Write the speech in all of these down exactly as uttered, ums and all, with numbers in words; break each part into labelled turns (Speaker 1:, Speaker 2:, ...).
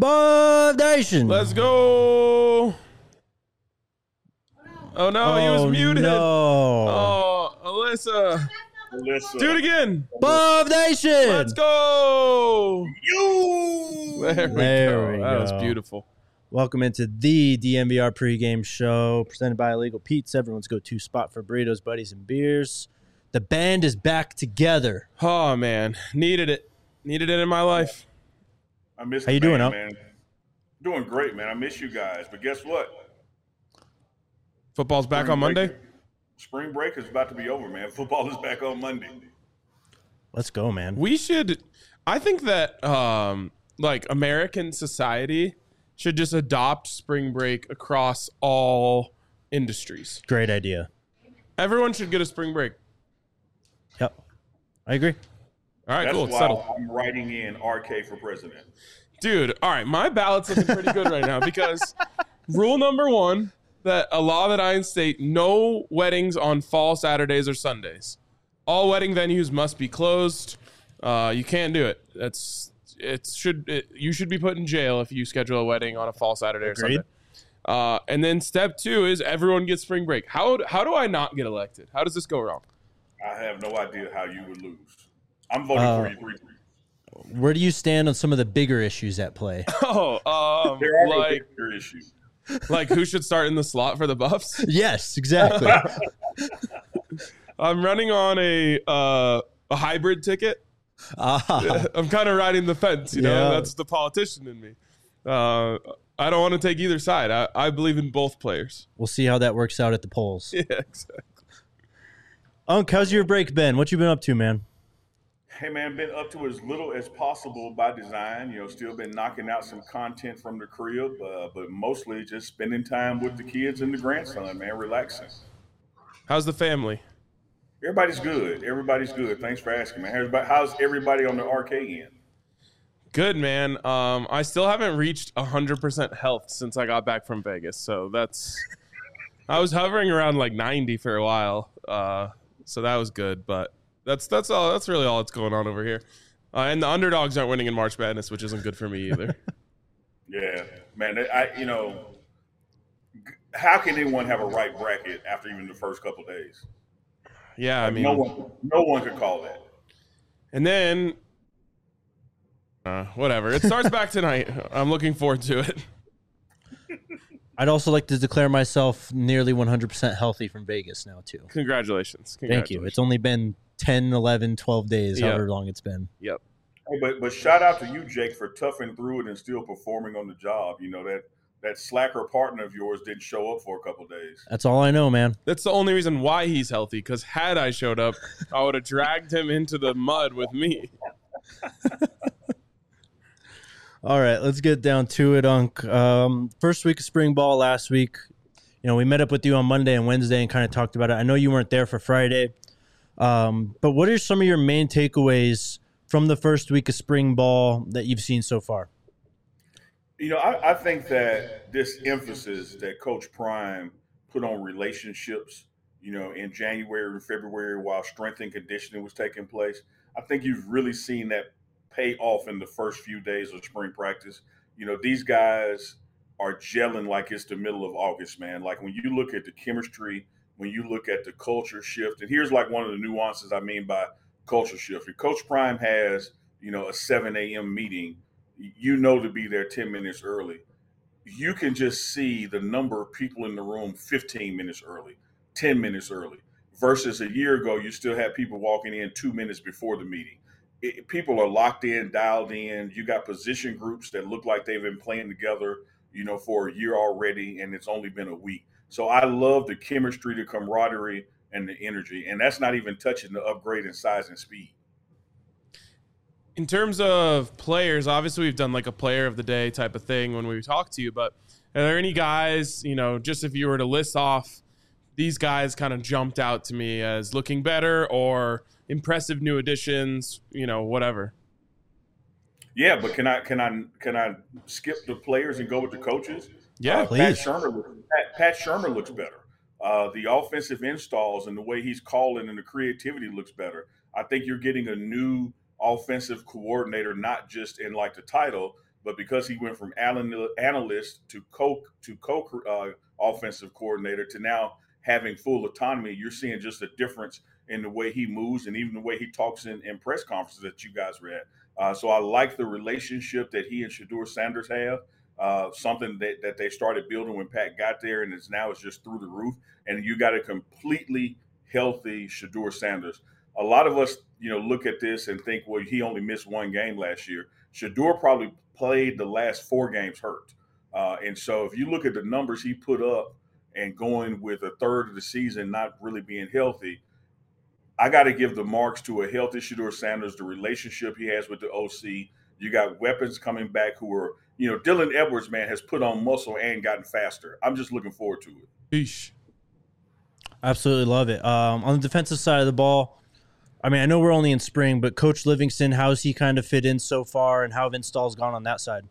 Speaker 1: Buff Nation.
Speaker 2: Let's go. Oh, no,
Speaker 1: oh,
Speaker 2: he was muted.
Speaker 1: No.
Speaker 2: Oh, Alyssa.
Speaker 3: Alyssa.
Speaker 2: Do it again.
Speaker 1: Buff Nation.
Speaker 2: Let's go.
Speaker 3: You.
Speaker 2: There we
Speaker 1: There
Speaker 2: go.
Speaker 1: we
Speaker 2: that
Speaker 1: go.
Speaker 2: was beautiful.
Speaker 1: Welcome into the D M V R pregame show presented by Illegal Pete's, everyone's go-to spot for burritos, buddies, and beers. The band is back together.
Speaker 2: Oh, man. Needed it. Needed it in my life.
Speaker 3: I miss
Speaker 1: How
Speaker 3: the
Speaker 1: you doing,
Speaker 3: band,
Speaker 1: Up?
Speaker 3: man. Doing great, man. I miss you guys. But guess what?
Speaker 2: Football's back
Speaker 3: Spring
Speaker 2: on Monday?
Speaker 3: break- Spring break is about to be over, man. Football is back on Monday.
Speaker 1: Let's go, man.
Speaker 2: We should – I think that, um, like, American society should just adopt spring break across all industries.
Speaker 1: Great idea.
Speaker 2: Everyone should get a spring break.
Speaker 1: Yep. I agree.
Speaker 2: All right,
Speaker 3: That's
Speaker 2: cool. It's
Speaker 3: why
Speaker 2: settled.
Speaker 3: I'm writing in R K for president.
Speaker 2: Dude, all right, my ballot's looking pretty good right now because rule number one, that a law that I instate, no weddings on fall Saturdays or Sundays. All wedding venues must be closed. Uh, you can't do it. That's it. Should it, you should be put in jail if you schedule a wedding on a fall Saturday or
Speaker 1: Agreed.
Speaker 2: Sunday. Uh, and then step two is everyone gets spring break. How how do I not get elected? How does this go wrong?
Speaker 3: I have no idea how you would lose. I'm voting
Speaker 1: Uh,
Speaker 3: for you. Three, three.
Speaker 1: Where do you stand on some of the bigger issues at play?
Speaker 2: Oh, um,
Speaker 3: There are no
Speaker 2: like
Speaker 3: bigger issues.
Speaker 2: like who should start in the slot for the Buffs?
Speaker 1: Yes, exactly.
Speaker 2: I'm running on a uh, a hybrid ticket.
Speaker 1: Ah,
Speaker 2: I'm kind of riding the fence, you know.
Speaker 1: Yeah.
Speaker 2: That's the politician in me. Uh, I don't want to take either side. I, I believe in both players.
Speaker 1: we'll see how that works out at the polls.
Speaker 2: Yeah, exactly.
Speaker 1: Unc, how's your break been? What you been up to, man?
Speaker 3: Hey, man, been up to as little as possible by design. You know, still been knocking out some content from the crib, uh, but mostly just spending time with the kids and the grandson, man, relaxing.
Speaker 2: How's the family?
Speaker 3: Everybody's good. Everybody's good. Thanks for asking, man. Everybody, how's everybody on the R K end?
Speaker 2: Good, man. Um, I still haven't reached one hundred percent health since I got back from Vegas, so that's. I was hovering around like ninety for a while, uh, so that was good. But that's that's all. That's really all that's going on over here. Uh, and the underdogs aren't winning in March Madness, which isn't good for me either.
Speaker 3: Yeah, man. I, you know, how can anyone have a right bracket after even the first couple days?
Speaker 2: Yeah, I mean,
Speaker 3: no one, no one could call that.
Speaker 2: and then. Uh, whatever. It starts back tonight. I'm looking forward to it.
Speaker 1: I'd also like to declare myself nearly one hundred percent healthy from Vegas now, too.
Speaker 2: Congratulations.
Speaker 1: Thank you. It's only been ten, eleven, twelve days,
Speaker 2: Yeah.
Speaker 1: however long it's been.
Speaker 2: Yep.
Speaker 3: Hey, but but shout out to you, Jake, for toughing through it and still performing on the job. You know that that slacker partner of yours didn't show up for a couple days.
Speaker 1: That's all I know, man.
Speaker 2: That's the only reason why he's healthy, because had I showed up, I would have dragged him into the mud with me.
Speaker 1: All right, let's get down to it, Unc. Um, first week of spring ball last week. You know, we met up with you on Monday and Wednesday and kind of talked about it. I know you weren't there for Friday, um, but what are some of your main takeaways from the first week of spring ball that you've seen so far?
Speaker 3: You know, I, I think that this emphasis that Coach Prime put on relationships, you know, in January and February while strength and conditioning was taking place, I think you've really seen that pay off in the first few days of spring practice. You know, these guys are gelling like it's the middle of August, man. Like when you look at the chemistry, when you look at the culture shift, and here's like one of the nuances I mean by culture shift. If Coach Prime has, you know, a seven a.m. meeting, you know to be there ten minutes early. You can just see the number of people in the room fifteen minutes early, ten minutes early, versus a year ago, you still had people walking in two minutes before the meeting. It, people are locked in, dialed in. You got position groups that look like they've been playing together, you know, for a year already, and it's only been a week. So I love the chemistry, the camaraderie, and the energy. And that's not even touching the upgrade in size and speed.
Speaker 2: In terms of players, obviously we've done like a player of the day type of thing when we talk to you, but are there any guys, you know, just if you were to list off, these guys kind of jumped out to me as looking better or impressive new additions, you know, whatever.
Speaker 3: Yeah, but can I can I can I skip the players and go with the coaches?
Speaker 2: Yeah,
Speaker 3: uh,
Speaker 1: please.
Speaker 3: Pat Shermer, Pat, Pat Shermer looks better. Uh, the offensive installs and the way he's calling and the creativity looks better. I think you're getting a new offensive coordinator, not just in like the title, But because he went from analyst to co to co uh, offensive coordinator to now having full autonomy, you're seeing just a difference in the way he moves and even the way he talks in, in press conferences that you guys were at. Uh, so I like the relationship that he and Shedeur Sanders have. Uh, something that, that they started building when Pat got there, and it's now it's just through the roof. And you got a completely healthy Shedeur Sanders. A lot of us, you know, look at this and think, well, he only missed one game last year. Shedeur probably played the last four games hurt. Uh, and so if you look at the numbers he put up and going with a third of the season not really being healthy, I got to give the marks to a healthy Shedeur Sanders, the relationship he has with the O C. You got weapons coming back who are, you know, Dylan Edwards, man, has put on muscle and gotten faster. I'm just looking forward to it.
Speaker 2: Eesh.
Speaker 1: Absolutely love it. Um, on the defensive side of the ball, I mean, I know we're only in spring, but Coach Livingston, how's he kind of fit in so far, and how have installs gone on that side?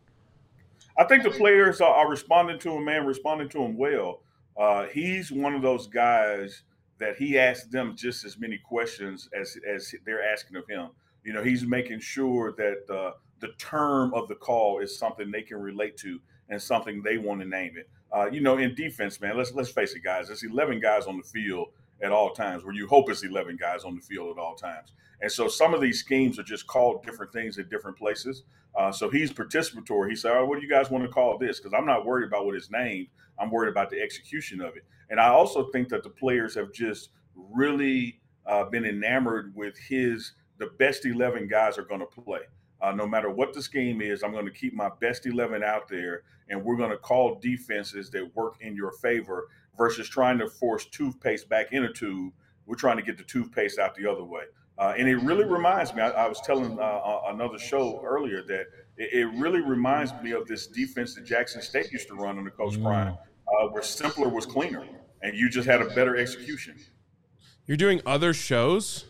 Speaker 3: I think the players are, are responding to him, man, responding to him well. Uh, he's one of those guys that he asks them just as many questions as as they're asking of him. You know, he's making sure that uh, the term of the call is something they can relate to and something they want to name it. Uh, you know, in defense, man, let's let's face it, guys. There's eleven guys on the field at all times, where you hope it's eleven guys on the field at all times. And so some of these schemes are just called different things at different places. Uh, so he's participatory. He said, oh, what do you guys want to call this? Because I'm not worried about what it's named. I'm worried about the execution of it. And I also think that the players have just really uh, been enamored with his, the best eleven guys are going to play. Uh, no matter what the scheme is, I'm going to keep my best eleven out there, and we're going to call defenses that work in your favor versus trying to force toothpaste back in a tube. We're trying to get the toothpaste out the other way. Uh, and it really reminds me, I, I was telling uh, another show earlier that it, it really reminds me of this defense that Jackson State used to run under Coach mm. Prime, uh, where simpler was cleaner, and you just had a better execution.
Speaker 2: You're doing other shows?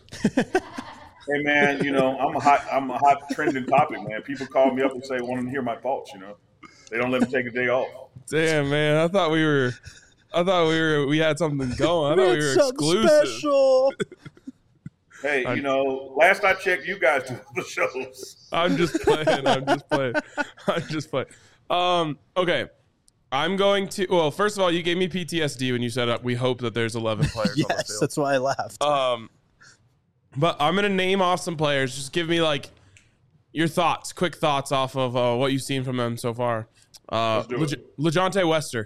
Speaker 3: Hey man, you know, I'm a hot, I'm a hot trending topic, man. People call me up and say, want to hear my thoughts, you know. They don't let me take a day off.
Speaker 2: Damn, man. I thought we were, I thought we were, we had something going. I thought we were exclusive.
Speaker 1: Special.
Speaker 3: Hey, you know, last I checked, you guys do the shows.
Speaker 2: I'm just playing. I'm just playing. I'm just playing. Um, okay. I'm going to, well, first of all, you gave me P T S D when you said uh, we hope that there's eleven players
Speaker 1: yes,
Speaker 2: on the field.
Speaker 1: That's why I laughed.
Speaker 2: Um, but I'm going to name off some players. Just give me, like, your thoughts, quick thoughts off of uh, what you've seen from them so far. Uh, LeJounte Wester.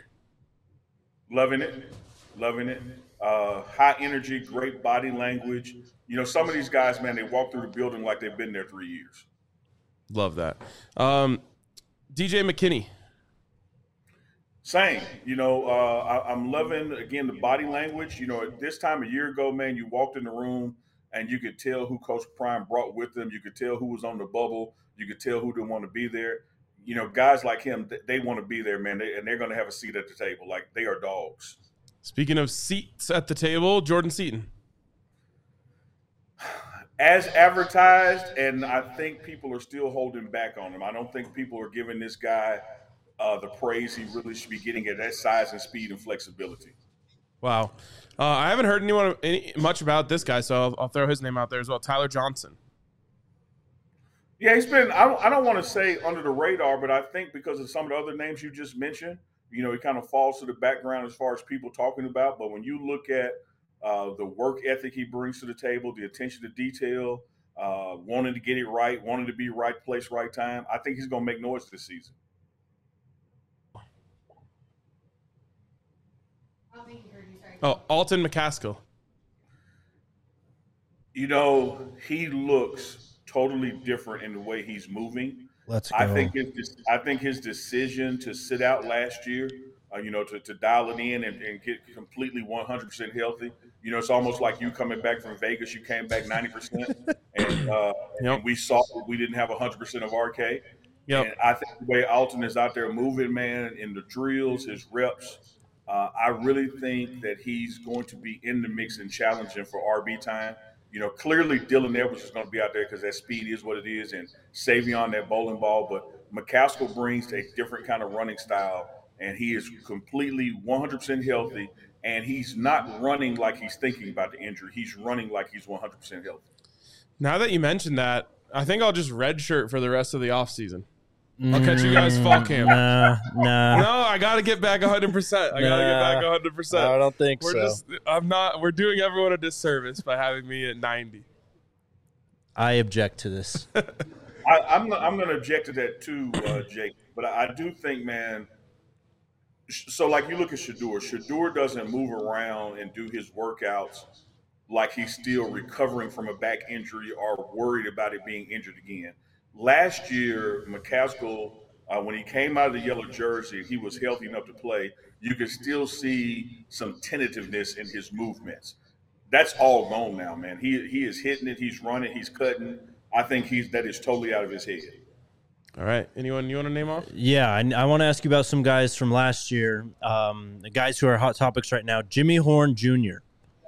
Speaker 3: Loving it. Loving it. Uh, high energy, great body language. You know, some of these guys, man, they walk through the building like they've been there three years.
Speaker 2: Love that. Um, D J McKinney.
Speaker 3: Same. You know, uh, I, I'm loving, again, the body language. You know, at this time a year ago, man, you walked in the room and you could tell who Coach Prime brought with them. You could tell who was on the bubble. You could tell who didn't want to be there. You know, guys like him, they want to be there, man, they, and they're going to have a seat at the table. Like, they are dogs.
Speaker 2: Speaking of seats at the table, Jordan Seaton.
Speaker 3: As advertised, and I think people are still holding back on him. I don't think people are giving this guy uh, the praise he really should be getting at that size and speed and flexibility.
Speaker 2: Wow. Uh, I haven't heard anyone any, much about this guy, so I'll, I'll throw his name out there as well. Tyler Johnson.
Speaker 3: Yeah, he's been, I don't, I don't want to say under the radar, but I think because of some of the other names you just mentioned, you know, he kind of falls to the background as far as people talking about. But when you look at uh, the work ethic he brings to the table, the attention to detail, uh, wanting to get it right, wanting to be right place, right time, I think he's going to make noise this season.
Speaker 2: Oh, Alton McCaskill.
Speaker 3: You know, he looks totally different in the way he's moving.
Speaker 1: Let's go.
Speaker 3: I think his, I think his decision to sit out last year, uh, you know, to, to dial it in and, and get completely one hundred percent healthy. You know, it's almost like you coming back from Vegas. You came back ninety percent, and, uh, yep. and we saw we didn't have one hundred percent of R K.
Speaker 2: Yep.
Speaker 3: And I think the way Alton is out there moving, man, in the drills, his reps, uh, I really think that he's going to be in the mix and challenging for R B time. You know, clearly Dylan Edwards is going to be out there because that speed is what it is, and Savion, that bowling ball. But McCaskill brings a different kind of running style, and he is completely one hundred percent healthy, and he's not running like he's thinking about the injury. He's running like he's one hundred percent healthy.
Speaker 2: Now that you mentioned that, I think I'll just redshirt for the rest of the offseason. I'll catch you guys fall camp.
Speaker 1: Nah, nah.
Speaker 2: No, I got to get back one hundred percent. I got to get back one hundred percent.
Speaker 1: I don't think
Speaker 2: we're
Speaker 1: so.
Speaker 2: Just, I'm not. We're doing everyone a disservice by having me at ninety.
Speaker 1: I object to this.
Speaker 3: I, I'm I'm going to object to that too, uh, Jake. But I, I do think, man. So, like you look at Shedeur. Shedeur doesn't move around and do his workouts like he's still recovering from a back injury or worried about it being injured again. Last year, McCaskill, uh, when he came out of the yellow jersey, he was healthy enough to play. You could still see some tentativeness in his movements. That's all gone now, man. He he is hitting it. He's running. He's cutting. I think he's that is totally out of his head.
Speaker 2: All right. Anyone you want to name off?
Speaker 1: Yeah, I, I want to ask you about some guys from last year, um, the guys who are hot topics right now. Jimmy Horn Junior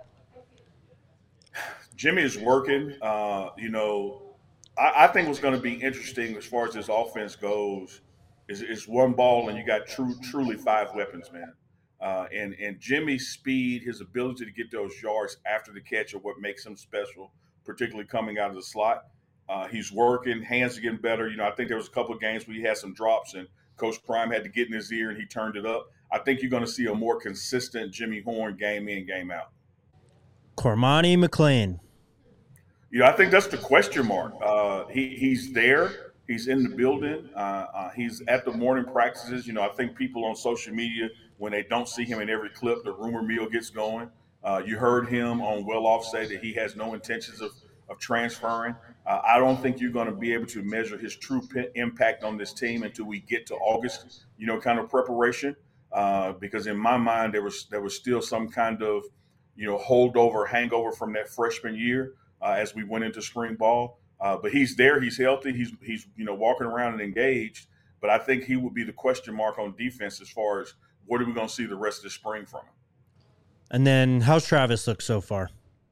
Speaker 3: Jimmy is working. Uh, you know, I, I think what's going to be interesting as far as this offense goes is, is one ball and you got true, truly five weapons, man. Uh, and, and Jimmy's speed, his ability to get those yards after the catch are what makes him special, particularly coming out of the slot. Uh, he's working, hands are getting better. You know, I think there was a couple of games where he had some drops and Coach Prime had to get in his ear and he turned it up. I think you're going to see a more consistent Jimmy Horn game in, game out.
Speaker 1: Cormani McClain.
Speaker 3: You know, I think that's the question mark. Uh, he he's there. He's in the building. Uh, uh, he's at the morning practices. You know, I think people on social media, when they don't see him in every clip, the rumor mill gets going. Uh, you heard him on Well Off say that he has no intentions of, of transferring. Uh, I don't think you're going to be able to measure his true p- impact on this team until we get to August, you know, kind of preparation. Uh, because in my mind, there was there was still some kind of, you know, holdover, hangover from that freshman year uh, as we went into spring ball. Uh, but he's there. He's healthy. He's, he's you know, walking around and engaged. But I think he would be the question mark on defense as far as what are we going to see the rest of the spring from him.
Speaker 1: And then how's Travis look so far?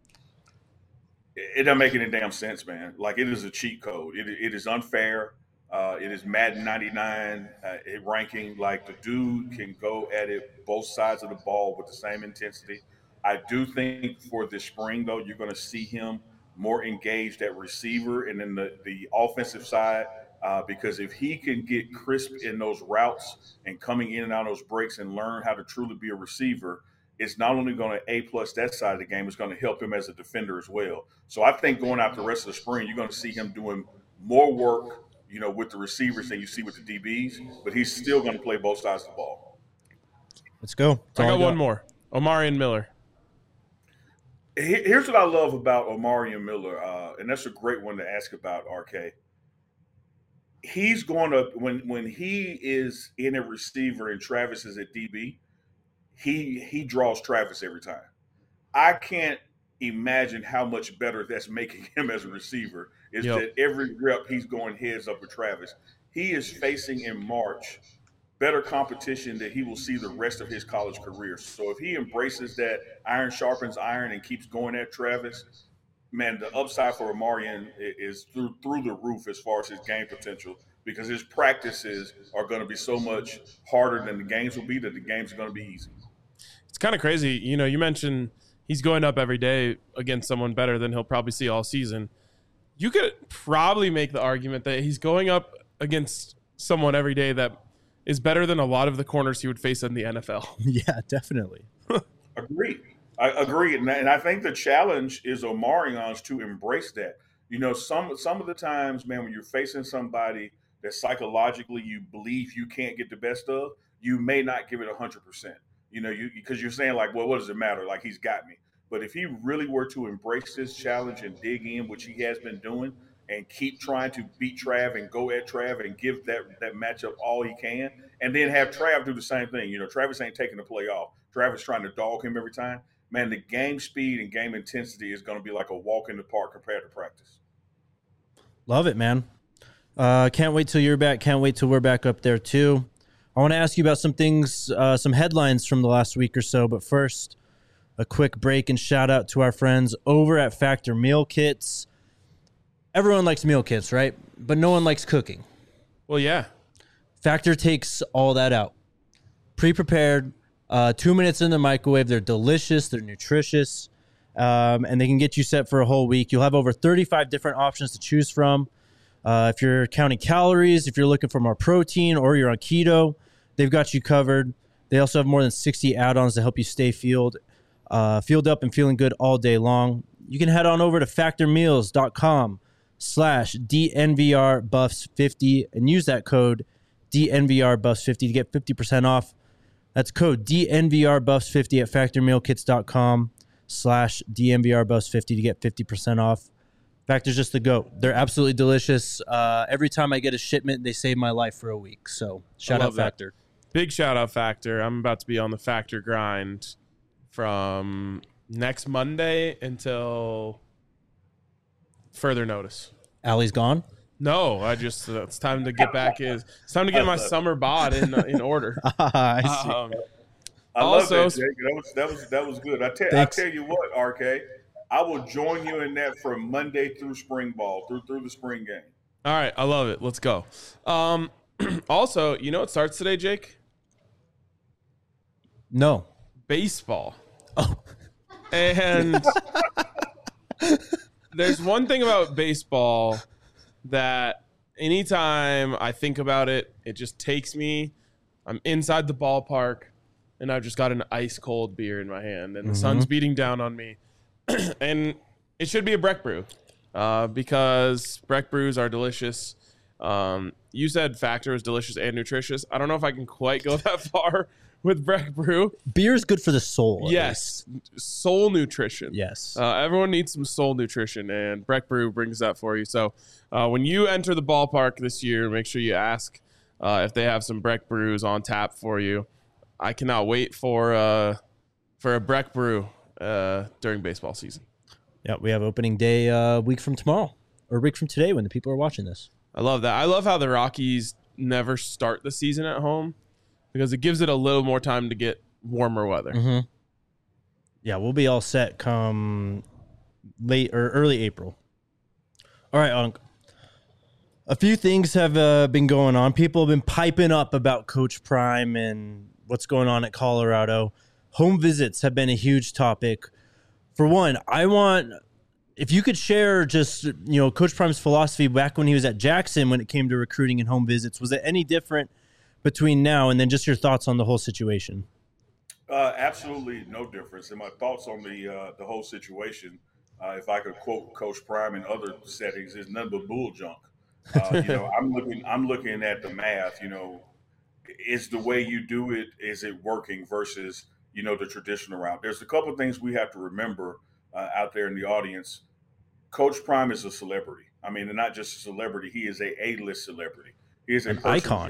Speaker 3: It doesn't make any damn sense, man. Like, it is a cheat code. It, it is unfair. Uh, it is Madden ninety-nine uh, ranking. Like, the dude can go at it both sides of the ball with the same intensity. I do think for this spring, though, you're going to see him more engaged at receiver and then the, the offensive side uh, because if he can get crisp in those routes and coming in and out of those breaks and learn how to truly be a receiver, it's not only going to A-plus that side of the game, it's going to help him as a defender as well. So I think going out the rest of the spring, you're going to see him doing more work, you know, with the receivers than you see with the D Bs, but he's still going to play both sides of the ball.
Speaker 1: Let's go.
Speaker 2: I got, I got one more. Omarion Miller.
Speaker 3: Here's what I love about Omarion Miller, uh, and that's a great one to ask about, R K. He's going to, when when he is in a receiver and Travis is at D B, he he draws Travis every time. I can't imagine how much better that's making him as a receiver is yep. that every rep he's going heads up with Travis. He is facing in March better competition that he will see the rest of his college career. So if he embraces that iron sharpens iron and keeps going at Travis, man, the upside for Omarion is through through the roof as far as his game potential because his practices are going to be so much harder than the games will be that the games are going to be easy.
Speaker 2: It's kind of crazy. You know, you mentioned he's going up every day against someone better than he'll probably see all season. You could probably make the argument that he's going up against someone every day that is better than a lot of the corners he would face in the N F L.
Speaker 1: Yeah, definitely.
Speaker 3: Agreed. I agree. And I think the challenge is Omarion's to embrace that. You know, some some of the times, man, when you're facing somebody that psychologically you believe you can't get the best of, you may not give it one hundred percent. You know, you because you're saying like, well, what does it matter? Like, he's got me. But if he really were to embrace this challenge and dig in, which he has been doing, and keep trying to beat Trav and go at Trav and give that, that matchup all he can, and then have Trav do the same thing. You know, Travis ain't taking the play off. Travis trying to dog him every time. Man, the game speed and game intensity is going to be like a walk in the park compared to practice.
Speaker 1: Love it, man. Uh, can't wait till you're back. Can't wait till we're back up there, too. I want to ask you about some things, uh, some headlines from the last week or so. But first, a quick break and shout out to our friends over at Factor Meal Kits. Everyone likes meal kits, right? But no one likes cooking.
Speaker 2: Well, yeah.
Speaker 1: Factor takes all that out. Pre-prepared, uh, two minutes in the microwave. They're delicious. They're nutritious. Um, and they can get you set for a whole week. You'll have over thirty-five different options to choose from. Uh, if you're counting calories, if you're looking for more protein, or you're on keto, they've got you covered. They also have more than sixty add-ons to help you stay fueled, uh, fueled up and feeling good all day long. You can head on over to factormeals.com slash DNVR buffs fifty and use that code D N V R buffs fifty to get fifty percent off. That's code D N V R buffs fifty at factormealkits.com slash DNVR buffs fifty to get fifty percent off. Factor's just the GOAT. They're absolutely delicious. Uh, every time I get a shipment, they save my life for a week. So shout out Factor.
Speaker 2: That. Big shout out Factor. I'm about to be on the Factor grind from next Monday until further notice.
Speaker 1: Allie's gone?
Speaker 2: No, I just uh, it's time to get back. Is it's time to get my summer bod in uh, in order.
Speaker 1: I see.
Speaker 2: Um,
Speaker 3: I
Speaker 2: also,
Speaker 3: love that, Jake. That was that was that was good. I tell I tell you what, R K, I will join you in that from Monday through spring ball, through through the spring game.
Speaker 2: All right, I love it. Let's go. Um, also, you know what starts today, Jake?
Speaker 1: No.
Speaker 2: Baseball. Oh. And there's one thing about baseball that anytime I think about it, it just takes me. I'm inside the ballpark, and I've just got an ice cold beer in my hand, and the mm-hmm. sun's beating down on me. And it should be a Breck Brew, uh, because Breck Brews are delicious. Um, you said Factor is delicious and nutritious. I don't know if I can quite go that far with Breck Brew.
Speaker 1: Beer is good for the soul.
Speaker 2: Yes, soul nutrition.
Speaker 1: Yes,
Speaker 2: uh, everyone needs some soul nutrition, and Breck Brew brings that for you. So uh, when you enter the ballpark this year, make sure you ask uh, if they have some Breck Brews on tap for you. I cannot wait for uh, for a Breck Brew uh, during baseball season.
Speaker 1: Yeah, we have opening day a uh, week from tomorrow, or a week from today when the people are watching this.
Speaker 2: I love that. I love how the Rockies never start the season at home, because it gives it a little more time to get warmer weather.
Speaker 1: Mm-hmm. Yeah, we'll be all set come late or early April. All right, Unc. A few things have uh, been going on. People have been piping up about Coach Prime and what's going on at Colorado. Home visits have been a huge topic. For one, I want, if you could share just, you know, Coach Prime's philosophy back when he was at Jackson when it came to recruiting and home visits. Was it any different between now and then? Just your thoughts on the whole situation.
Speaker 3: Uh, absolutely no difference. And my thoughts on the uh, the whole situation, uh, if I could quote Coach Prime in other settings, is none but bull junk. Uh, you know, I'm looking I'm looking at the math. You know, is the way you do it, is it working versus, you know, the traditional route? There's a couple of things we have to remember uh, out there in the audience. Coach Prime is a celebrity. I mean, and not just a celebrity. He is a A-list celebrity. He is a
Speaker 1: An icon.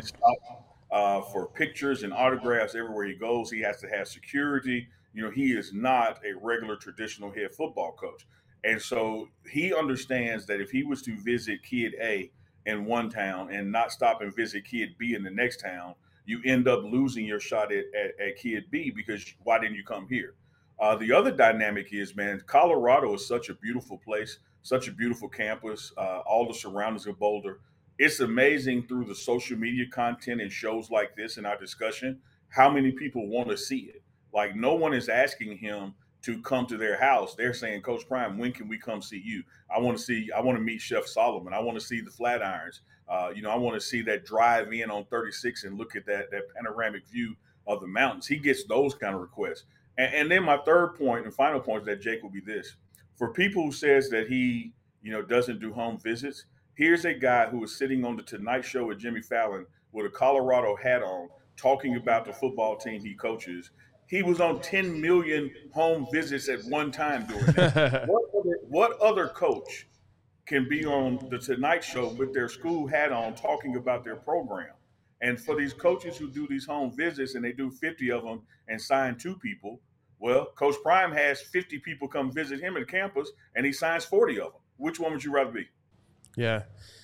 Speaker 3: Uh, for pictures and autographs everywhere he goes. He has to have security. You know, he is not a regular traditional head football coach. And so he understands that if he was to visit kid A in one town and not stop and visit kid B in the next town, you end up losing your shot at, at, at kid B, because why didn't you come here? Uh, the other dynamic is, man, Colorado is such a beautiful place, such a beautiful campus, uh, all the surroundings of Boulder. It's amazing through the social media content and shows like this in our discussion, how many people want to see it. Like, no one is asking him to come to their house. They're saying, Coach Prime, when can we come see you? I want to see, I want to meet Chef Solomon. I want to see the Flatirons. Uh, you know, I want to see that drive in on thirty-six and look at that, that panoramic view of the mountains. He gets those kind of requests. And, and then my third point and final point is that, Jake, will be this. For people who says that he, you know, doesn't do home visits, here's a guy who is sitting on the Tonight Show with Jimmy Fallon with a Colorado hat on, talking about the football team he coaches. He was on ten million home visits at one time doing that. what, other, what other coach can be on the Tonight Show with their school hat on talking about their program? And for these coaches who do these home visits and they do fifty of them and sign two people, well, Coach Prime has fifty people come visit him at campus and he signs forty of them. Which one would you rather be?
Speaker 2: Yeah,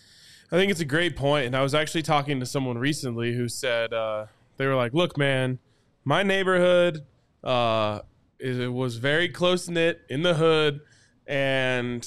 Speaker 2: I think it's a great point. And I was actually talking to someone recently who said uh, they were like, look, man, my neighborhood uh, is, it was very close-knit in the hood. And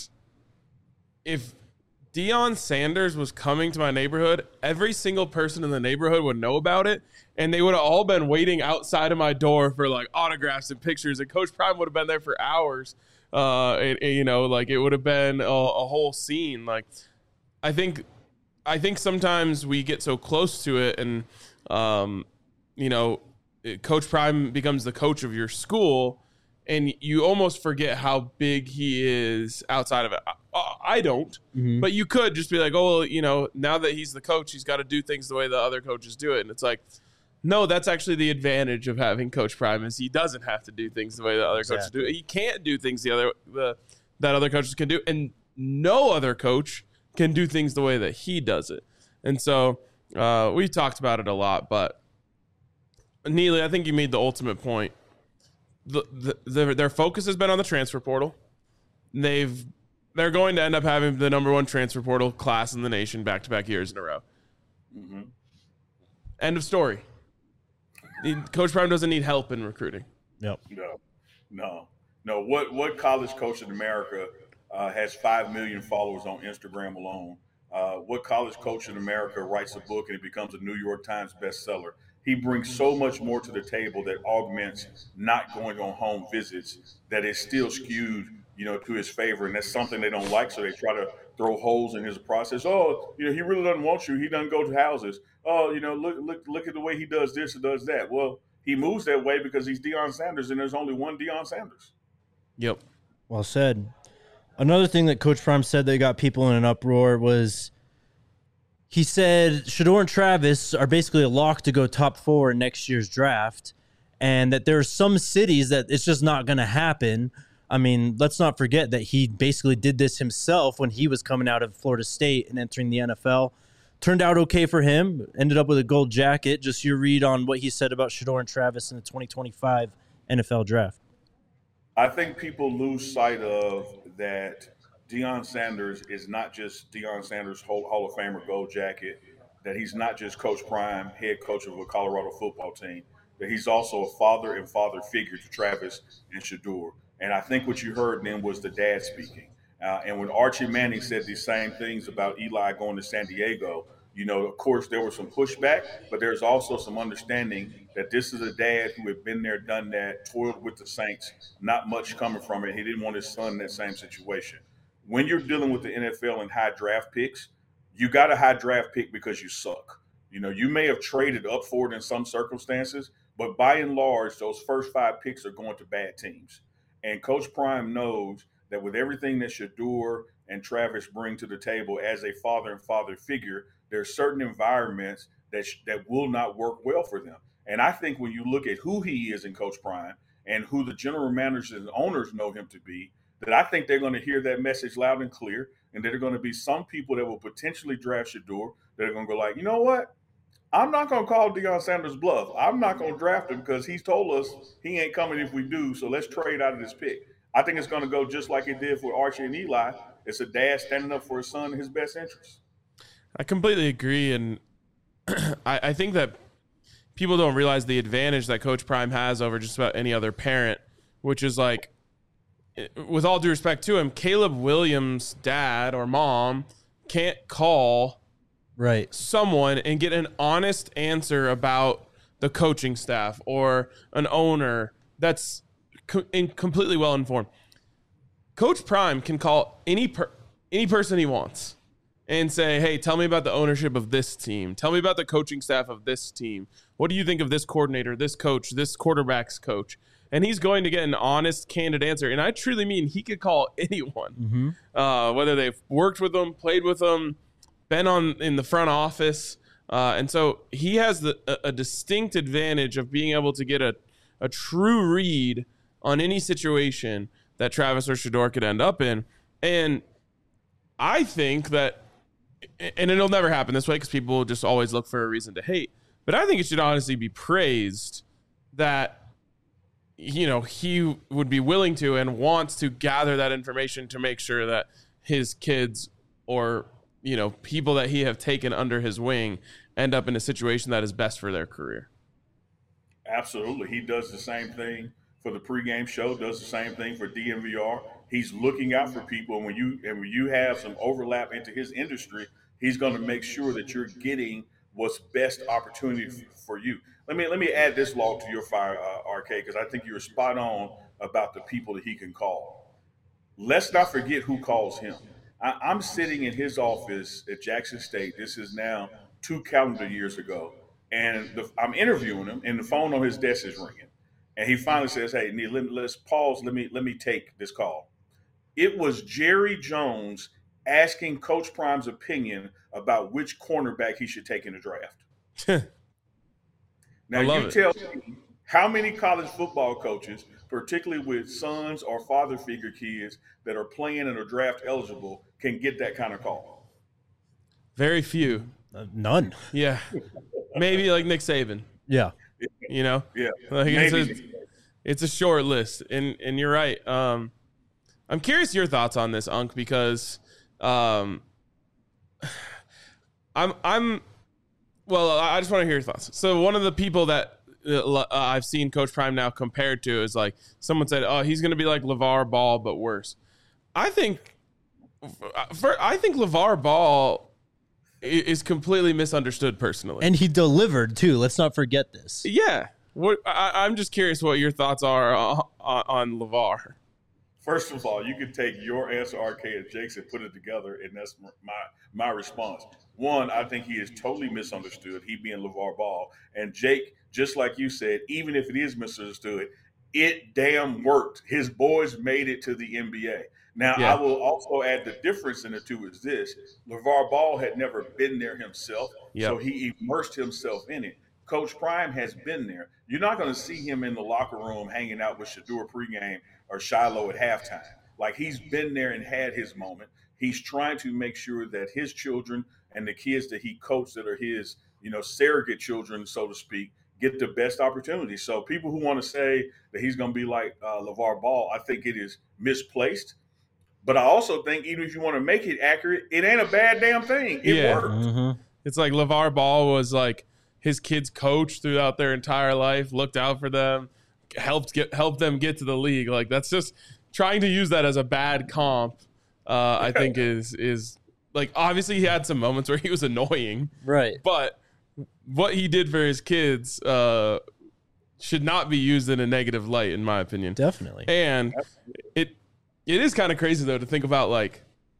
Speaker 2: if Deion Sanders was coming to my neighborhood, every single person in the neighborhood would know about it. And they would have all been waiting outside of my door for like autographs and pictures. And Coach Prime would have been there for hours. Uh, and, and, you know, like it would have been a, a whole scene. Like, I think I think sometimes we get so close to it, and um, you know, Coach Prime becomes the coach of your school, and you almost forget how big he is outside of it. I, I don't, mm-hmm. but you could just be like, oh, well, you know, now that he's the coach, he's got to do things the way the other coaches do it, and it's like, no, that's actually the advantage of having Coach Prime is he doesn't have to do things the way the other exactly. coaches do it. He can't do things the other the that other coaches can do, and no other coach can do things the way that he does it. And so uh, we talked about it a lot, but Neely, I think you made the ultimate point. The, the, the, their focus has been on the transfer portal. They've they're going to end up having the number one transfer portal class in the nation back-to-back years in a row. Mm-hmm. End of story. Coach Prime doesn't need help in recruiting.
Speaker 1: Yep.
Speaker 3: No, no, no. What what college coach in America uh, has five million followers on Instagram alone? Uh, what college coach in America writes a book and it becomes a New York Times bestseller? He brings so much more to the table that augments not going on home visits that is still skewed, you know, to his favor. And that's something they don't like. So they try to throw holes in his process. Oh, you know, he really doesn't want you. He doesn't go to houses. Oh, you know, look, look, look at the way he does this and does that. Well, he moves that way because he's Deion Sanders and there's only one Deion Sanders.
Speaker 2: Yep.
Speaker 1: Well said. Another thing that Coach Prime said that got people in an uproar was he said Shedeur and Travis are basically a lock to go top four in next year's draft, and that there are some cities that it's just not going to happen. I mean, let's not forget that he basically did this himself when he was coming out of Florida State and entering the N F L. Turned out okay for him. Ended up with a gold jacket. Just your read on what he said about Shedeur and Travis in the twenty twenty-five N F L draft.
Speaker 3: I think people lose sight of that Deion Sanders is not just Deion Sanders, Hall of Famer gold jacket, that he's not just Coach Prime, head coach of a Colorado football team, that he's also a father and father figure to Travis and Shedeur. And I think what you heard then was the dad speaking. Uh, and when Archie Manning said these same things about Eli going to San Diego, you know, of course, there was some pushback, but there's also some understanding that this is a dad who had been there, done that, toiled with the Saints, not much coming from it. He didn't want his son in that same situation. When you're dealing with the N F L and high draft picks, you got a high draft pick because you suck. You know, you may have traded up for it in some circumstances, but by and large, those first five picks are going to bad teams. And Coach Prime knows that with everything that Shedeur and Travis bring to the table as a father and father figure, there are certain environments that sh- that will not work well for them. And I think when you look at who he is in Coach Prime and who the general managers and owners know him to be, that I think they're going to hear that message loud and clear, and that there are going to be some people that will potentially draft Shedeur that are going to go like, you know what? I'm not going to call Deion Sanders bluff. I'm not going to draft him because he's told us he ain't coming if we do, so let's trade out of this pick. I think it's going to go just like it did for Archie and Eli. It's a dad standing up for his son in his best interest.
Speaker 2: I completely agree, and I, I think that people don't realize the advantage that Coach Prime has over just about any other parent, which is like, with all due respect to him, Caleb Williams' dad or mom can't call
Speaker 1: right
Speaker 2: someone and get an honest answer about the coaching staff or an owner that's co- in completely well informed. Coach Prime can call any per- any person he wants and say, hey, tell me about the ownership of this team. Tell me about the coaching staff of this team. What do you think of this coordinator, this coach, this quarterback's coach? And he's going to get an honest, candid answer. And I truly mean he could call anyone, mm-hmm. uh, whether they've worked with them, played with them, been on in the front office. Uh, and so he has the, a, a distinct advantage of being able to get a, a true read on any situation that Travis or Shedeur could end up in. And I think that, and it'll never happen this way because people just always look for a reason to hate, but I think it should honestly be praised that, you know, he would be willing to and wants to gather that information to make sure that his kids or, you know, people that he have taken under his wing end up in a situation that is best for their career.
Speaker 3: Absolutely. He does the same thing for the pregame show, does the same thing for D M V R. He's looking out for people. And when you, and when you have some overlap into his industry, he's going to make sure that you're getting what's best opportunity for you. Let me let me add this log to your fire, uh, R K, because I think you're spot on about the people that he can call. Let's not forget who calls him. I, I'm sitting in his office at Jackson State. This is now two calendar years ago. And the, I'm interviewing him, and the phone on his desk is ringing. And he finally says, "Hey, Neil, let, let's pause. Let me let me take this call." It was Jerry Jones asking Coach Prime's opinion about which cornerback he should take in the draft. Now, you it. tell me how many college football coaches, particularly with sons or father figure kids that are playing and are draft eligible, can get that kind of call?
Speaker 2: Very few.
Speaker 1: Uh, none.
Speaker 2: Yeah. Maybe like Nick Saban.
Speaker 1: Yeah.
Speaker 3: You
Speaker 2: know?
Speaker 3: Yeah.
Speaker 2: Like it's, a, it's a short list. And and you're right. Um, I'm curious your thoughts on this, Unc, because um, I'm I'm well, I just want to hear your thoughts. So one of the people that uh, I've seen Coach Prime now compared to is like someone said, "Oh, he's going to be like LeVar Ball, but worse." I think for I think LeVar Ball is completely misunderstood personally,
Speaker 1: and he delivered too. Let's not forget this.
Speaker 2: Yeah, what I, I'm just curious what your thoughts are on, on LeVar.
Speaker 3: First of all, you can take your answer, R K, and Jake's, and put it together, and that's my my response. One, I think he is totally misunderstood, he being LeVar Ball. And Jake, just like you said, even if it is misunderstood, it damn worked. His boys made it to the N B A. Now, yeah. I will also add the difference in the two is this. LeVar Ball had never been there himself, yep. so he immersed himself in it. Coach Prime has been there. You're not going to see him in the locker room hanging out with Shedeur pregame or Shiloh at halftime. Like, he's been there and had his moment. He's trying to make sure that his children and the kids that he coached that are his, you know, surrogate children, so to speak, get the best opportunity. So people who want to say that he's going to be like uh, LeVar Ball, I think it is misplaced. But I also think even if you want to make it accurate, it ain't a bad damn thing. It
Speaker 2: yeah.
Speaker 3: worked.
Speaker 1: Mm-hmm.
Speaker 2: It's like LeVar Ball was like his kids' coach throughout their entire life, looked out for them, helped get helped them get to the league. Like, that's just trying to use that as a bad comp. Uh, I think is is like, obviously he had some moments where he was annoying,
Speaker 1: right?
Speaker 2: But what he did for his kids uh, should not be used in a negative light, in my opinion.
Speaker 1: Definitely.
Speaker 2: And it it is kind of crazy though to think about, like,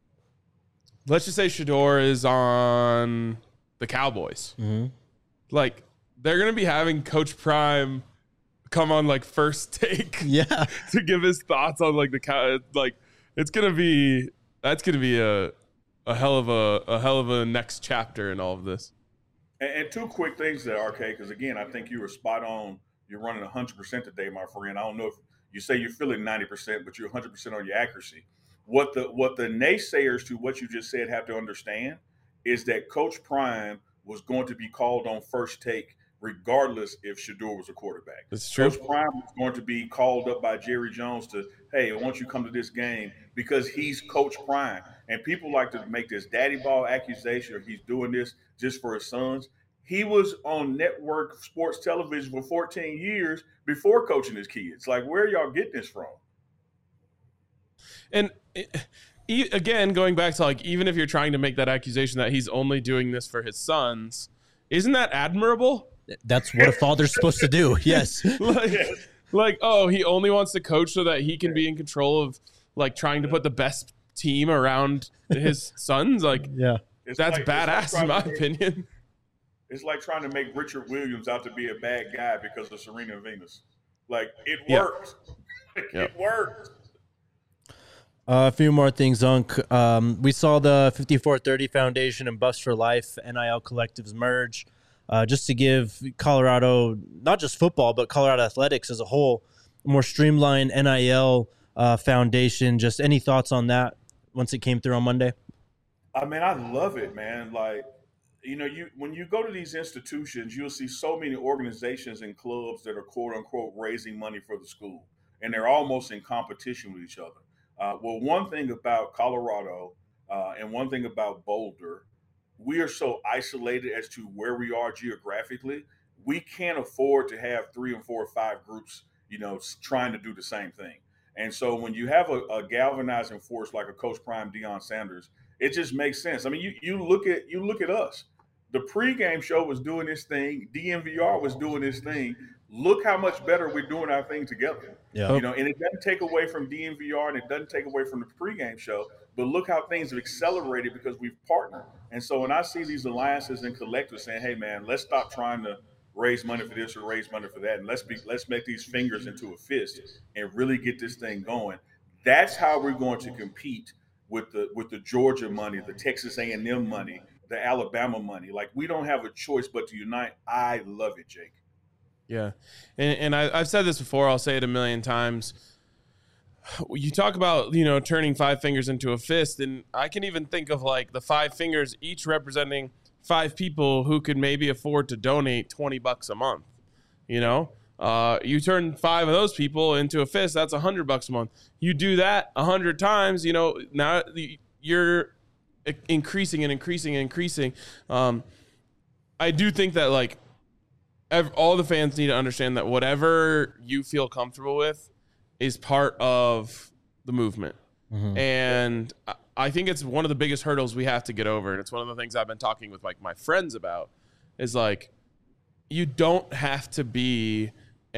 Speaker 2: let's just say Shedeur is on the Cowboys.
Speaker 1: Mm-hmm.
Speaker 2: Like, they're gonna be having Coach Prime come on like First Take,
Speaker 1: yeah,
Speaker 2: to give his thoughts on like the cow. Like, it's gonna be that's gonna be a a hell of a a hell of a next chapter in all of this.
Speaker 3: And, and two quick things there, R K, because again, I think you were spot on. You're running one hundred percent today, my friend. I don't know if you say you're feeling ninety percent, but you're one hundred percent on your accuracy. What the what the naysayers to what you just said have to understand is that Coach Prime was going to be called on First Take regardless if Shedeur was a quarterback.
Speaker 2: That's true.
Speaker 3: Coach Prime was going to be called up by Jerry Jones to, hey, I want you to come to this game because he's Coach Prime. And people like to make this daddy ball accusation or he's doing this just for his sons. He was on network sports television for fourteen years before coaching his kids. Like, where are y'all getting this from?
Speaker 2: And it, again, going back to, like, even if you're trying to make that accusation that he's only doing this for his sons, isn't that admirable?
Speaker 1: That's what a father's supposed to do. Yes.
Speaker 2: like, like, oh, he only wants to coach so that he can be in control of, like, trying to put the best team around his sons. Like,
Speaker 1: yeah,
Speaker 3: it's
Speaker 2: that's
Speaker 3: like,
Speaker 2: badass
Speaker 3: like
Speaker 2: in my
Speaker 3: make,
Speaker 2: opinion.
Speaker 3: It's like trying to make Richard Williams out to be a bad guy because of Serena and Venus. Like, it
Speaker 2: Yeah.
Speaker 3: worked. Like,
Speaker 2: Yeah.
Speaker 3: It worked.
Speaker 1: Uh, a few more things, Unc. Um, we saw the fifty-four thirty Foundation and Bust for Life N I L collectives merge, uh, just to give Colorado, not just football, but Colorado athletics as a whole, a more streamlined N I L uh, foundation. Just any thoughts on that once it came through on Monday?
Speaker 3: I mean, I love it, man. Like, you know, you when you go to these institutions, you'll see so many organizations and clubs that are quote unquote raising money for the school, and they're almost in competition with each other. Uh, well, one thing about Colorado uh, and one thing about Boulder, we are so isolated as to where we are geographically. We can't afford to have three and four or five groups, you know, trying to do the same thing. And so when you have a, a galvanizing force like a Coach Prime, Deion Sanders, it just makes sense. I mean, you you look at you look at us. The pregame show was doing this thing. D N V R was doing this thing. Look how much better we're doing our thing together.
Speaker 1: Yeah.
Speaker 3: You know, and it doesn't take away from D N V R and it doesn't take away from the pregame show. But look how things have accelerated because we've partnered. And so when I see these alliances and collectors saying, "Hey, man, let's stop trying to raise money for this or raise money for that, and let's be let's make these fingers into a fist and really get this thing going," that's how we're going to compete with the with the Georgia money, the Texas A and M money, the Alabama money. Like, we don't have a choice but to unite. I love it, Jake.
Speaker 2: Yeah. And, and I, I've said this before. I'll say it a million times. You talk about, you know, turning five fingers into a fist. And I can even think of like the five fingers each representing five people who could maybe afford to donate twenty bucks a month. You know, uh, you turn five of those people into a fist. That's a hundred bucks a month. You do that a hundred times, you know, now you're increasing and increasing and increasing. Um, I do think that like, all the fans need to understand that whatever you feel comfortable with is part of the movement. Mm-hmm. And I think it's one of the biggest hurdles we have to get over. And it's one of the things I've been talking with like my friends about is like, you don't have to be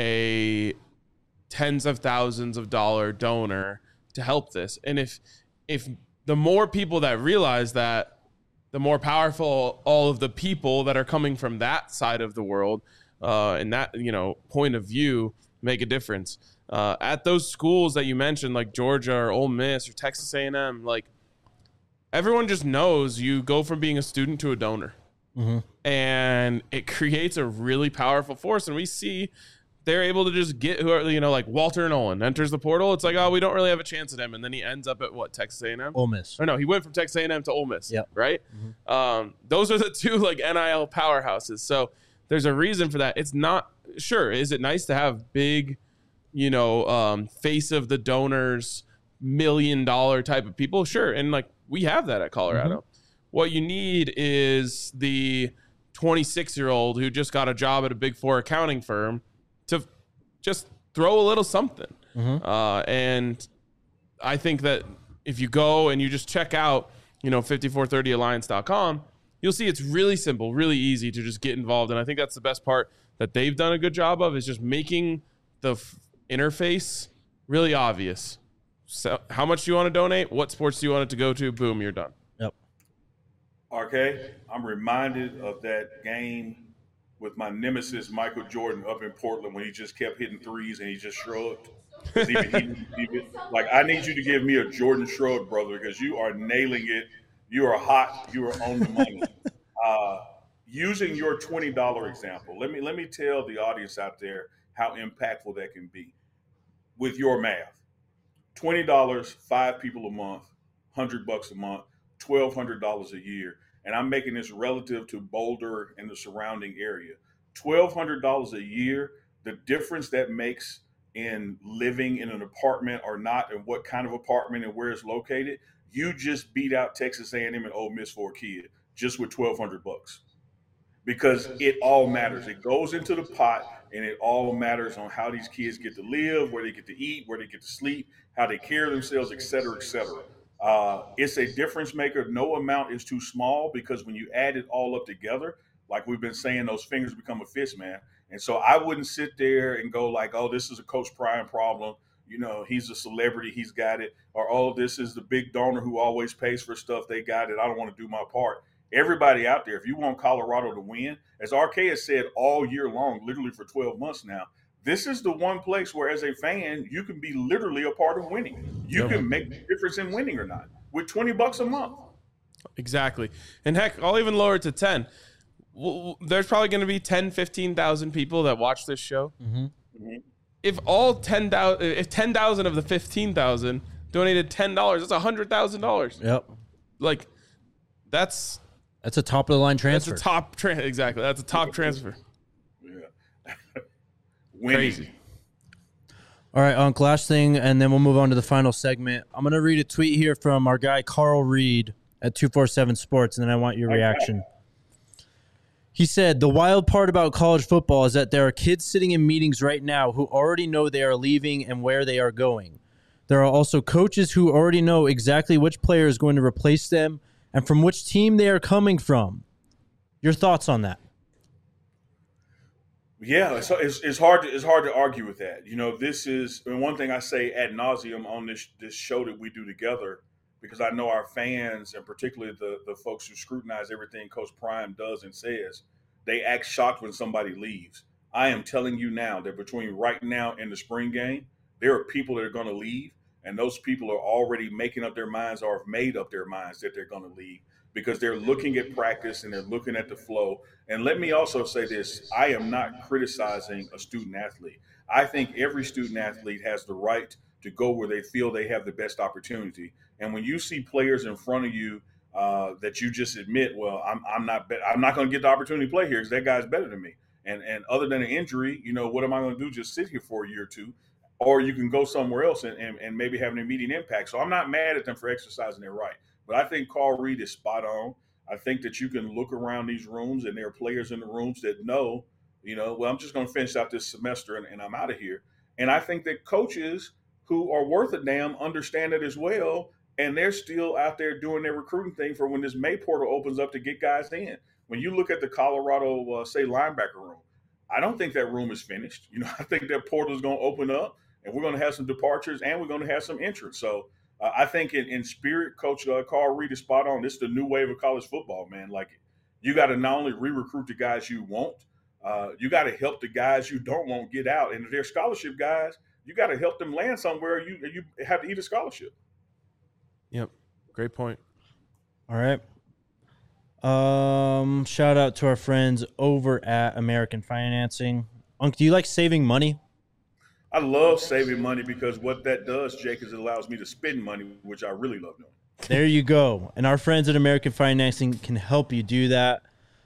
Speaker 2: a tens of thousands of dollar donor to help this. And if, if the more people that realize that, the more powerful all of the people that are coming from that side of the world uh, and that, you know, point of view make a difference. Uh, at those schools that you mentioned, like Georgia or Ole Miss or Texas A and M, like everyone just knows you go from being a student to a donor. Mm-hmm. And it creates a really powerful force. And we see they're able to just get who are, you know, like Walter Nolan enters the portal. It's like, oh, we don't really have a chance at him. And then he ends up at what, Texas A and M?
Speaker 1: Ole Miss.
Speaker 2: Or no, he went from Texas A and M to Ole Miss.
Speaker 1: Yep.
Speaker 2: Right? Mm-hmm. Um, those are the two like N I L powerhouses. So there's a reason for that. It's not, sure, is it nice to have big, you know, um, face of the donors, million dollar type of people? Sure. And like we have that at Colorado. Mm-hmm. What you need is the twenty-six year old who just got a job at a big four accounting firm to just throw a little something. Mm-hmm. Uh, and I think that if you go and you just check out, you know, fifty-four thirty alliance dot com, you'll see it's really simple, really easy to just get involved. And I think that's the best part that they've done a good job of is just making the f- interface really obvious. So how much do you want to donate? What sports do you want it to go to? Boom, you're done.
Speaker 1: Yep.
Speaker 3: R K, I'm reminded of that game with my nemesis, Michael Jordan, up in Portland when he just kept hitting threes and he just shrugged. Even, he, he, like, I need you to give me a Jordan shrug, brother, because you are nailing it. You are hot. You are on the money. Uh, using your twenty dollars example, let me let me tell the audience out there how impactful that can be with your math. twenty dollars, five people a month, one hundred bucks a month, twelve hundred dollars a year. And I'm making this relative to Boulder and the surrounding area. twelve hundred dollars a year, the difference that makes in living in an apartment or not, and what kind of apartment and where it's located, you just beat out Texas A and M and Ole Miss for a kid just with twelve hundred bucks. Because it all matters. It goes into the pot, and it all matters on how these kids get to live, where they get to eat, where they get to sleep, how they care themselves, et cetera, et cetera. Uh, it's a difference maker. No amount is too small because when you add it all up together, like we've been saying, those fingers become a fist, man. And so I wouldn't sit there and go like, oh, this is a Coach Prime problem. You know, he's a celebrity. He's got it. Or, oh, this is the big donor who always pays for stuff. They got it. I don't want to do my part. Everybody out there, if you want Colorado to win, as R K has said all year long, literally for twelve months now, this is the one place where as a fan, you can be literally a part of winning. You yeah. can make the difference in winning or not with twenty bucks a month.
Speaker 2: Exactly. And heck, I'll even lower it to ten. There's probably going to be ten, fifteen thousand people that watch this show. Mm-hmm. Mm-hmm. If all ten thousand, if ten thousand of the fifteen thousand donated ten dollars, that's one hundred thousand dollars.
Speaker 1: Yep.
Speaker 2: Like, that's...
Speaker 1: That's a top of the line transfer.
Speaker 2: That's a top tra- exactly. That's a top transfer.
Speaker 3: Yeah.
Speaker 2: Crazy.
Speaker 1: All right, Unc, last thing, and then we'll move on to the final segment. I'm going to read a tweet here from our guy Carl Reed at two forty-seven Sports, and then I want your reaction. He said, the wild part about college football is that there are kids sitting in meetings right now who already know they are leaving and where they are going. There are also coaches who already know exactly which player is going to replace them and from which team they are coming from. Your thoughts on that?
Speaker 3: Yeah, it's, it's, it's hard to it's hard to argue with that. You know, this is, and one thing I say ad nauseum on this this show that we do together because I know our fans, and particularly the, the folks who scrutinize everything Coach Prime does and says, they act shocked when somebody leaves. I am telling you now that between right now and the spring game, there are people that are going to leave, and those people are already making up their minds or have made up their minds that they're going to leave because they're looking at practice and they're looking at the flow. And let me also say this, I am not criticizing a student athlete. I think every student athlete has the right to go where they feel they have the best opportunity. And when you see players in front of you uh, that you just admit, well, I'm, I'm not, be- I'm not going to get the opportunity to play here because that guy's better than me. And and other than an injury, you know, what am I going to do? Just sit here for a year or two, or you can go somewhere else and, and, and maybe have an immediate impact. So I'm not mad at them for exercising their right, but I think Carl Reed is spot on. I think that you can look around these rooms and there are players in the rooms that know, you know, well, I'm just going to finish out this semester and, and I'm out of here. And I think that coaches who are worth a damn understand it as well. And they're still out there doing their recruiting thing for when this May portal opens up to get guys in. When you look at the Colorado, uh, say, linebacker room, I don't think that room is finished. You know, I think that portal is going to open up and we're going to have some departures and we're going to have some entrance. So uh, I think in, in spirit, Coach uh, Carl Reed is spot on. This is the new wave of college football, man. Like, you got to not only re-recruit the guys you want, uh, you got to help the guys you don't want get out. And if they're scholarship guys, you got to help them land somewhere. You you have to eat a scholarship.
Speaker 2: Yep. Great point.
Speaker 1: All right. Um, shout out to our friends over at American Financing. Unc, do you like saving money?
Speaker 3: I love saving money because what that does, Jake, is it allows me to spend money, which I really love doing.
Speaker 1: There you go. And our friends at American Financing can help you do that.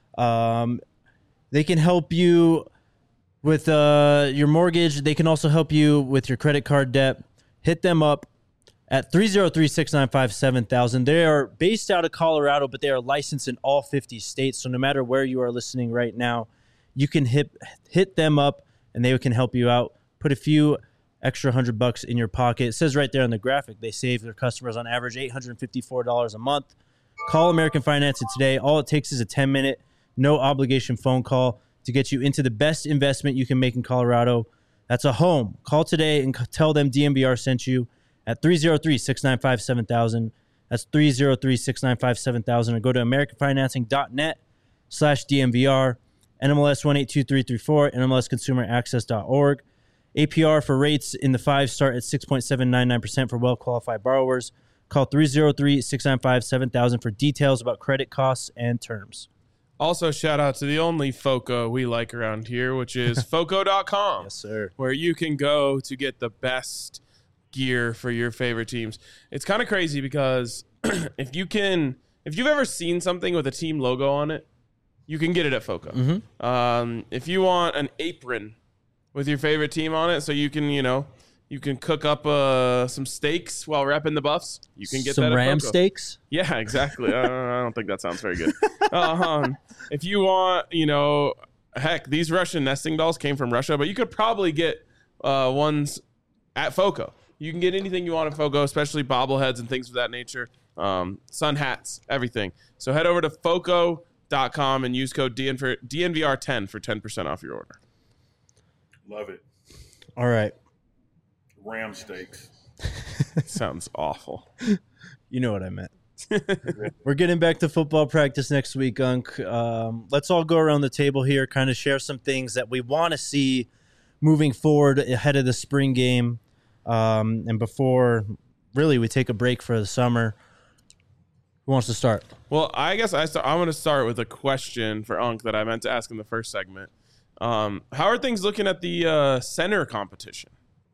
Speaker 1: Um, they can help you with uh, your mortgage. They can also help you with your credit card debt. Hit them up at three oh three, six nine five, seven thousand. They are based out of Colorado, but they are licensed in all fifty states. So no matter where you are listening right now, you can hit hit them up and they can help you out. Put a few extra hundred bucks in your pocket. It says right there on the graphic, they save their customers on average eight hundred fifty-four dollars a month. Call American Financing today. All it takes is a ten minute, no obligation phone call to get you into the best investment you can make in Colorado. That's a home. Call today and tell them D N V R sent you at three oh three, six nine five, seven thousand. That's three oh three, six nine five, seven thousand. Or go to americanfinancing.net slash DNVR, N M L S one eight two three three four, N M L S consumer access dot org. A P R for rates in the five start at six point seven nine nine percent for well-qualified borrowers. Call three oh three, six nine five, seven thousand for details about credit costs and terms.
Speaker 2: Also, shout out to the only FOCO we like around here, which is foco dot com.
Speaker 1: Yes, sir.
Speaker 2: Where you can go to get the best gear for your favorite teams. It's kind of crazy because if you can, if you've ever seen something with a team logo on it, you can get it at FOCO.
Speaker 1: Mm-hmm.
Speaker 2: Um, if you want an apron with your favorite team on it, so you can, you know, you can cook up uh, some steaks while repping the Buffs, you can get
Speaker 1: some
Speaker 2: that at
Speaker 1: ram
Speaker 2: FOCO.
Speaker 1: steaks.
Speaker 2: Yeah, exactly. I, don't, I don't think that sounds very good. Um, if you want, you know, heck, these Russian nesting dolls came from Russia, but you could probably get uh, ones at FOCO. You can get anything you want at FOCO, especially bobbleheads and things of that nature. Um, sun hats, everything. So head over to foco dot com and use code D N V R ten for ten percent off your order.
Speaker 3: Love it.
Speaker 1: All right.
Speaker 3: Ram steaks.
Speaker 2: Sounds awful.
Speaker 1: You know what I meant. We're getting back to football practice next week, Unc. Um, let's all go around the table here, kind of share some things that we want to see moving forward ahead of the spring game. Um, and before, really, we take a break for the summer. Who wants to start?
Speaker 2: Well, I guess I start, I'm going to start with a question for Unc that I meant to ask in the first segment. Um, how are things looking at the uh, center competition?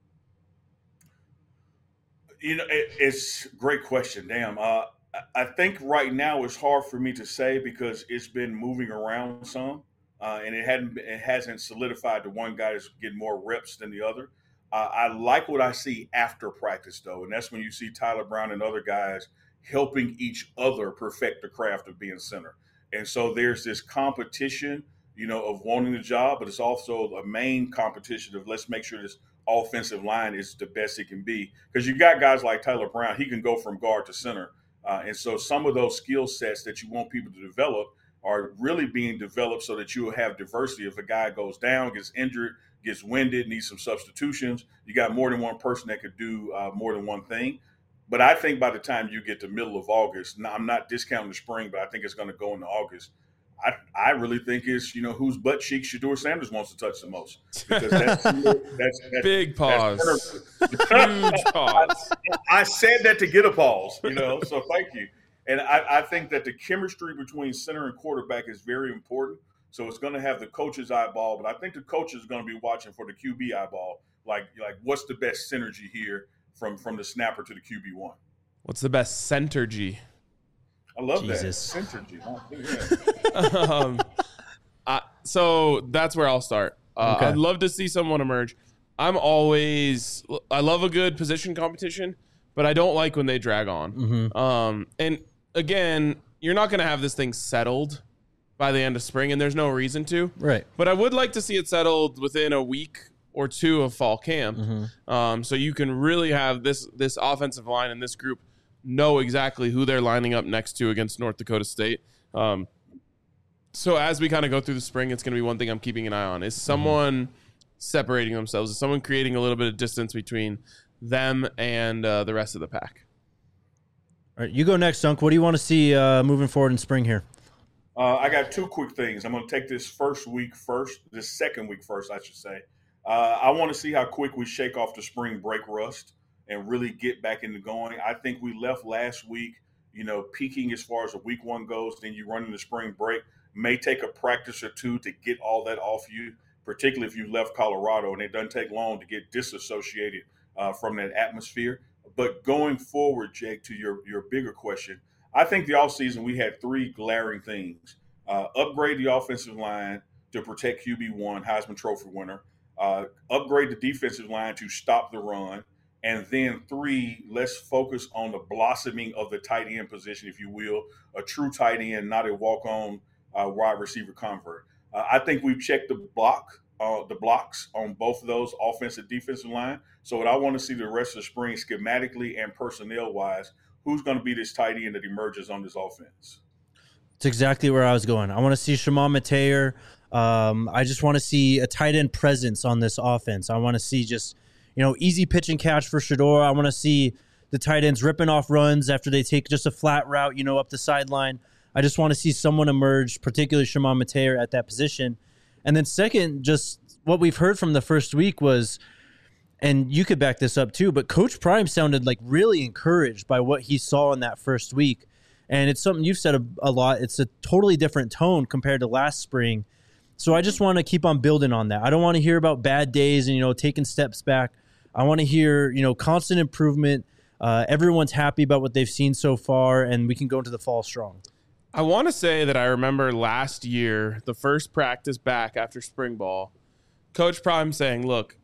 Speaker 3: You know, it, it's a great question. Damn. Uh, I think right now it's hard for me to say because it's been moving around some, uh, and it hadn't it hasn't solidified the one guy that's getting more reps than the other. Uh, I like what I see after practice, though, and that's when you see Tyler Brown and other guys helping each other perfect the craft of being center. And so there's this competition, you know, of wanting the job, but it's also a main competition of let's make sure this offensive line is the best it can be. Because you got guys like Tyler Brown, he can go from guard to center. Uh, and so some of those skill sets that you want people to develop are really being developed so that you will have diversity. If a guy goes down, gets injured, gets winded, needs some substitutions, you got more than one person that could do uh, more than one thing. But I think by the time you get to middle of August, now I'm not discounting the spring, but I think it's going to go into August. I, I really think it's, you know, whose butt cheek Shedeur Sanders wants to touch the most. Because that's, that's, that's
Speaker 2: big pause.
Speaker 3: That's
Speaker 2: Huge pause.
Speaker 3: I, I said that to get a pause, you know, so thank you. And I, I think that the chemistry between center and quarterback is very important. So it's going to have the coach's eyeball, but I think the coach is going to be watching for the Q B eyeball. Like, like what's the best synergy here from, from the snapper to the Q B one?
Speaker 2: What's the best centergy?
Speaker 3: I love
Speaker 1: Jesus.
Speaker 3: that. Synergy. Huh? Yeah.
Speaker 2: um, I, so that's where I'll start. Uh,
Speaker 1: Okay.
Speaker 2: I'd love to see someone emerge. I'm always, I love a good position competition, but I don't like when they drag on.
Speaker 1: Mm-hmm.
Speaker 2: Um, and again, you're not going to have this thing settled by the end of spring, and there's no reason to.
Speaker 1: Right.
Speaker 2: But I would like to see it settled within a week or two of fall camp,
Speaker 1: Mm-hmm.
Speaker 2: um, so you can really have this this offensive line and this group know exactly who they're lining up next to against North Dakota State. Um, so as we kind of go through the spring, it's going to be one thing I'm keeping an eye on. Is someone mm-hmm. separating themselves? Is someone creating a little bit of distance between them and uh, the rest of the pack?
Speaker 1: All right, you go next, Dunk. What do you want to see uh, moving forward in spring here?
Speaker 3: Uh, I got two quick things. I'm going to take this first week first, this second week first, I should say. Uh, I want to see how quick we shake off the spring break rust and really get back into going. I think we left last week, you know, peaking as far as the week one goes. Then you run into spring break. May take a practice or two to get all that off you, particularly if you left Colorado, and it doesn't take long to get disassociated uh, from that atmosphere. But going forward, Jake, to your, your bigger question, I think the offseason we had three glaring things. Uh, upgrade the offensive line to protect Q B one, Heisman Trophy winner. Uh, upgrade the defensive line to stop the run. And then three, let's focus on the blossoming of the tight end position, if you will, a true tight end, not a walk-on uh, wide receiver convert. Uh, I think we've checked the block, uh, the blocks on both of those offensive defensive line. So what I want to see the rest of the spring schematically and personnel-wise, who's going to be this tight end that emerges on this offense?
Speaker 1: It's exactly where I was going. I want to see Shimon Mateer. Um, I just want to see a tight end presence on this offense. I want to see just, you know, easy pitch and catch for Shedeur. I want to see the tight ends ripping off runs after they take just a flat route, you know, up the sideline. I just want to see someone emerge, particularly Shimon Mateer at that position. And then second, just what we've heard from the first week was, and you could back this up too, but Coach Prime sounded like really encouraged by what he saw in that first week. And it's something you've said a, a lot. It's a totally different tone compared to last spring. So I just want to keep on building on that. I don't want to hear about bad days and, you know, taking steps back. I want to hear, you know, constant improvement. Uh, everyone's happy about what they've seen so far, and we can go into the fall strong.
Speaker 2: I want to say that I remember last year, the first practice back after spring ball, Coach Prime saying, look,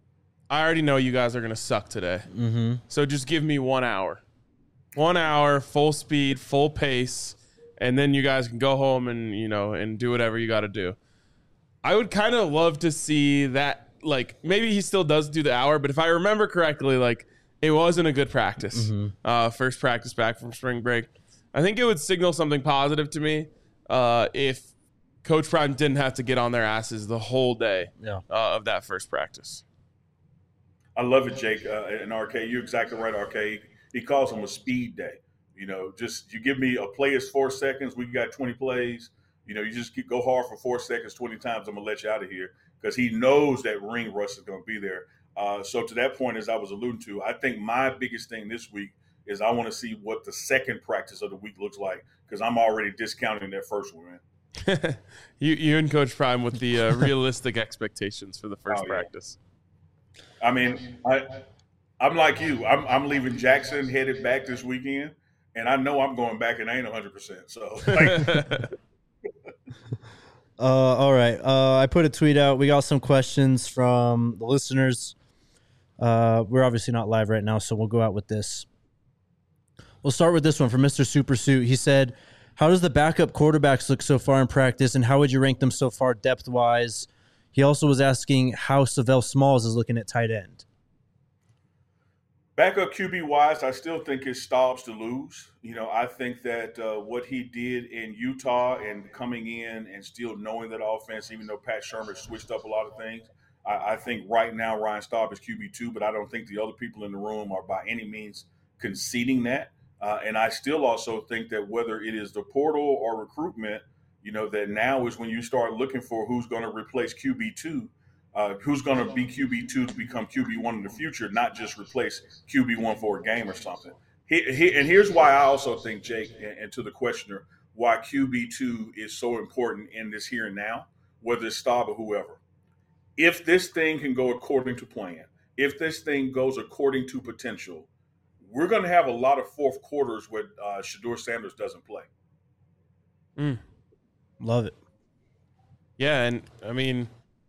Speaker 2: I already know you guys are going to suck today.
Speaker 1: Mm-hmm.
Speaker 2: So just give me one hour. One hour, full speed, full pace, and then you guys can go home and, you know, and do whatever you got to do. I would kind of love to see that, like, maybe he still does do the hour, but if I remember correctly, like, it wasn't a good practice. Mm-hmm. Uh, first practice back from spring break. I think it would signal something positive to me uh, if Coach Prime didn't have to get on their asses the whole day
Speaker 1: yeah.
Speaker 2: uh, of that first practice.
Speaker 3: I love it, Jake. Uh, and R K, you're exactly right, R K. He calls them a speed day. You know, just you give me a play is four seconds. We got twenty plays. You know, you just keep, go hard for four seconds, twenty times. I'm going to let you out of here because he knows that ring rush is going to be there. Uh, so to that point, as I was alluding to, I think my biggest thing this week is I want to see what the second practice of the week looks like because I'm already discounting that first one, man.
Speaker 2: you, you and Coach Prime with the uh, realistic expectations for the first oh, yeah. practice.
Speaker 3: I mean, I, I'm like you. I'm, I'm leaving Jackson headed back this weekend, and I know I'm going back and I ain't one hundred percent. So, like,
Speaker 1: uh, all right. Uh, I put a tweet out. We got some questions from the listeners. Uh, we're obviously not live right now, so we'll go out with this. We'll start with this one from Mister Supersuit. He said, how does the backup quarterbacks look so far in practice, and how would you rank them so far depth-wise? He also was asking how Savell Smalls is looking at tight end.
Speaker 3: Backup Q B-wise, I still think it's Staubs to lose. You know, I think that uh, what he did in Utah and coming in and still knowing that offense, even though Pat Shermer switched up a lot of things, I, I think right now Ryan Staub is Q B two, but I don't think the other people in the room are by any means conceding that. Uh, and I still also think that whether it is the portal or recruitment, you know, that now is when you start looking for who's going to replace Q B two, uh, who's going to be Q B two to become Q B one in the future, not just replace Q B one for a game or something. He, he, and here's why I also think, Jake, and, and to the questioner, why Q B two is so important in this here and now, whether it's Staub or whoever. If this thing can go according to plan, if this thing goes according to potential, we're going to have a lot of fourth quarters where uh, Shedeur Sanders doesn't play.
Speaker 2: Mm.
Speaker 1: Love it.
Speaker 2: Yeah, and I mean,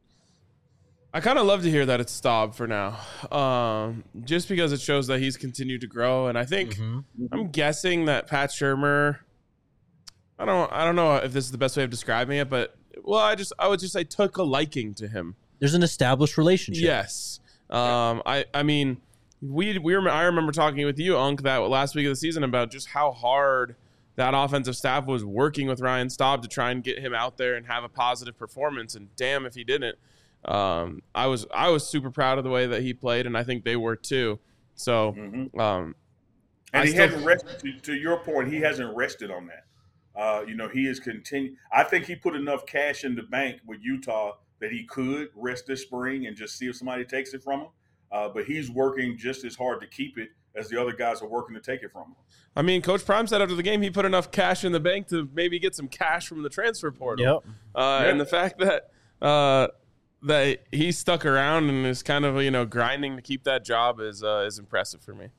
Speaker 2: I kind of love to hear that it's Staub for now, um, just because it shows that he's continued to grow. And I think
Speaker 1: Mm-hmm.
Speaker 2: I'm guessing that Pat Shurmur, I don't, I don't know if this is the best way of describing it, but well, I just, I would just say took a liking to him.
Speaker 1: There's an established relationship.
Speaker 2: Yes. Um, I, I mean, we, we were, I remember talking with you, Unc, that last week of the season about just how hard that offensive staff was working with Ryan Staub to try and get him out there and have a positive performance. And damn if he didn't. Um, I was I was super proud of the way that he played, and I think they were too. So,
Speaker 3: mm-hmm.
Speaker 2: um,
Speaker 3: and
Speaker 2: I
Speaker 3: he
Speaker 2: still,
Speaker 3: hasn't rested. To, to your point, he hasn't rested on that. Uh, you know, he is continuing. I think he put enough cash in the bank with Utah that he could rest this spring and just see if somebody takes it from him. Uh, but he's working just as hard to keep it as the other guys are working to take it from him.
Speaker 2: I mean, Coach Prime said after the game he put enough cash in the bank to maybe get some cash from the transfer portal.
Speaker 1: Yep.
Speaker 2: Uh,
Speaker 3: yep.
Speaker 2: And the fact that uh, that he stuck around and is kind of, you know, grinding to keep that job is uh, is impressive for me.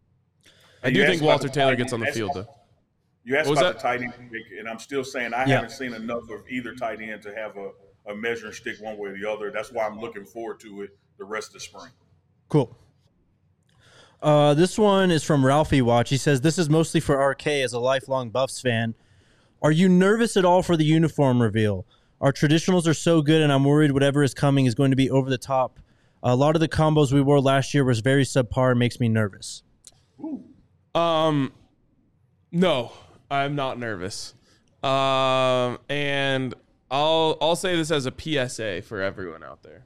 Speaker 2: I do think Walter Taylor gets on the field, though.
Speaker 3: You asked
Speaker 2: What was
Speaker 3: about
Speaker 2: that?
Speaker 3: the tight end, and I'm still saying I
Speaker 1: Yeah.
Speaker 3: haven't seen enough of either tight end to have a, a measuring stick one way or the other. That's why I'm looking forward to it the rest of the spring.
Speaker 1: Cool. Uh, this one is from Ralphie Watch. He says, this is mostly for R K as a lifelong Buffs fan. Are you nervous at all for the uniform reveal? Our traditionals are so good, and I'm worried whatever is coming is going to be over the top. A lot of the combos we wore last year was very subpar and makes me nervous.
Speaker 2: Um, no, I'm not nervous. Um, and I'll I'll say this as a P S A for everyone out there.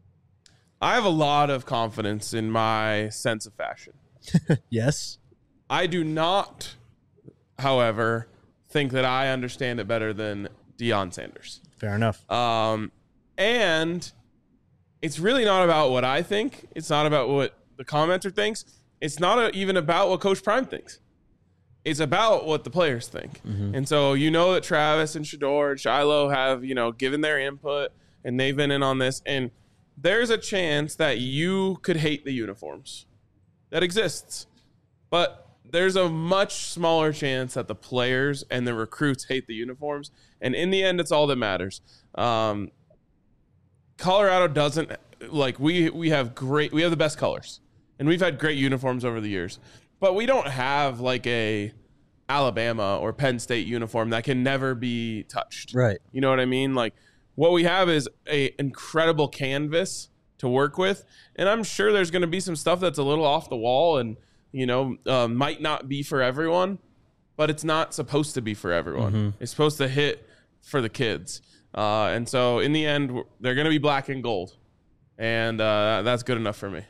Speaker 2: I have a lot of confidence in my sense of fashion.
Speaker 1: Yes.
Speaker 2: I do not, however, think that I understand it better than Deion Sanders.
Speaker 1: Fair enough.
Speaker 2: Um, and it's really not about what I think. It's not about what the commenter thinks. It's not a, even about what Coach Prime thinks. It's about what the players think.
Speaker 1: Mm-hmm.
Speaker 2: And so you know that Travis and Shedeur and Shiloh have, you know, given their input, and they've been in on this. And there's a chance that you could hate the uniforms. That exists. But there's a much smaller chance that the players and the recruits hate the uniforms. And in the end, it's all that matters. Um, Colorado doesn't, like, we we have great, we have the best colors. And we've had great uniforms over the years. But we don't have, like, a Alabama or Penn State uniform that can never be touched.
Speaker 1: Right.
Speaker 2: You know what I mean? Like, what we have is a incredible canvas to work with. And I'm sure there's going to be some stuff that's a little off the wall and, you know, uh, might not be for everyone, but it's not supposed to be for everyone.
Speaker 1: Mm-hmm.
Speaker 2: It's supposed to hit for the kids. Uh, and so in the end, they're going to be black and gold. And uh, that's good enough for me.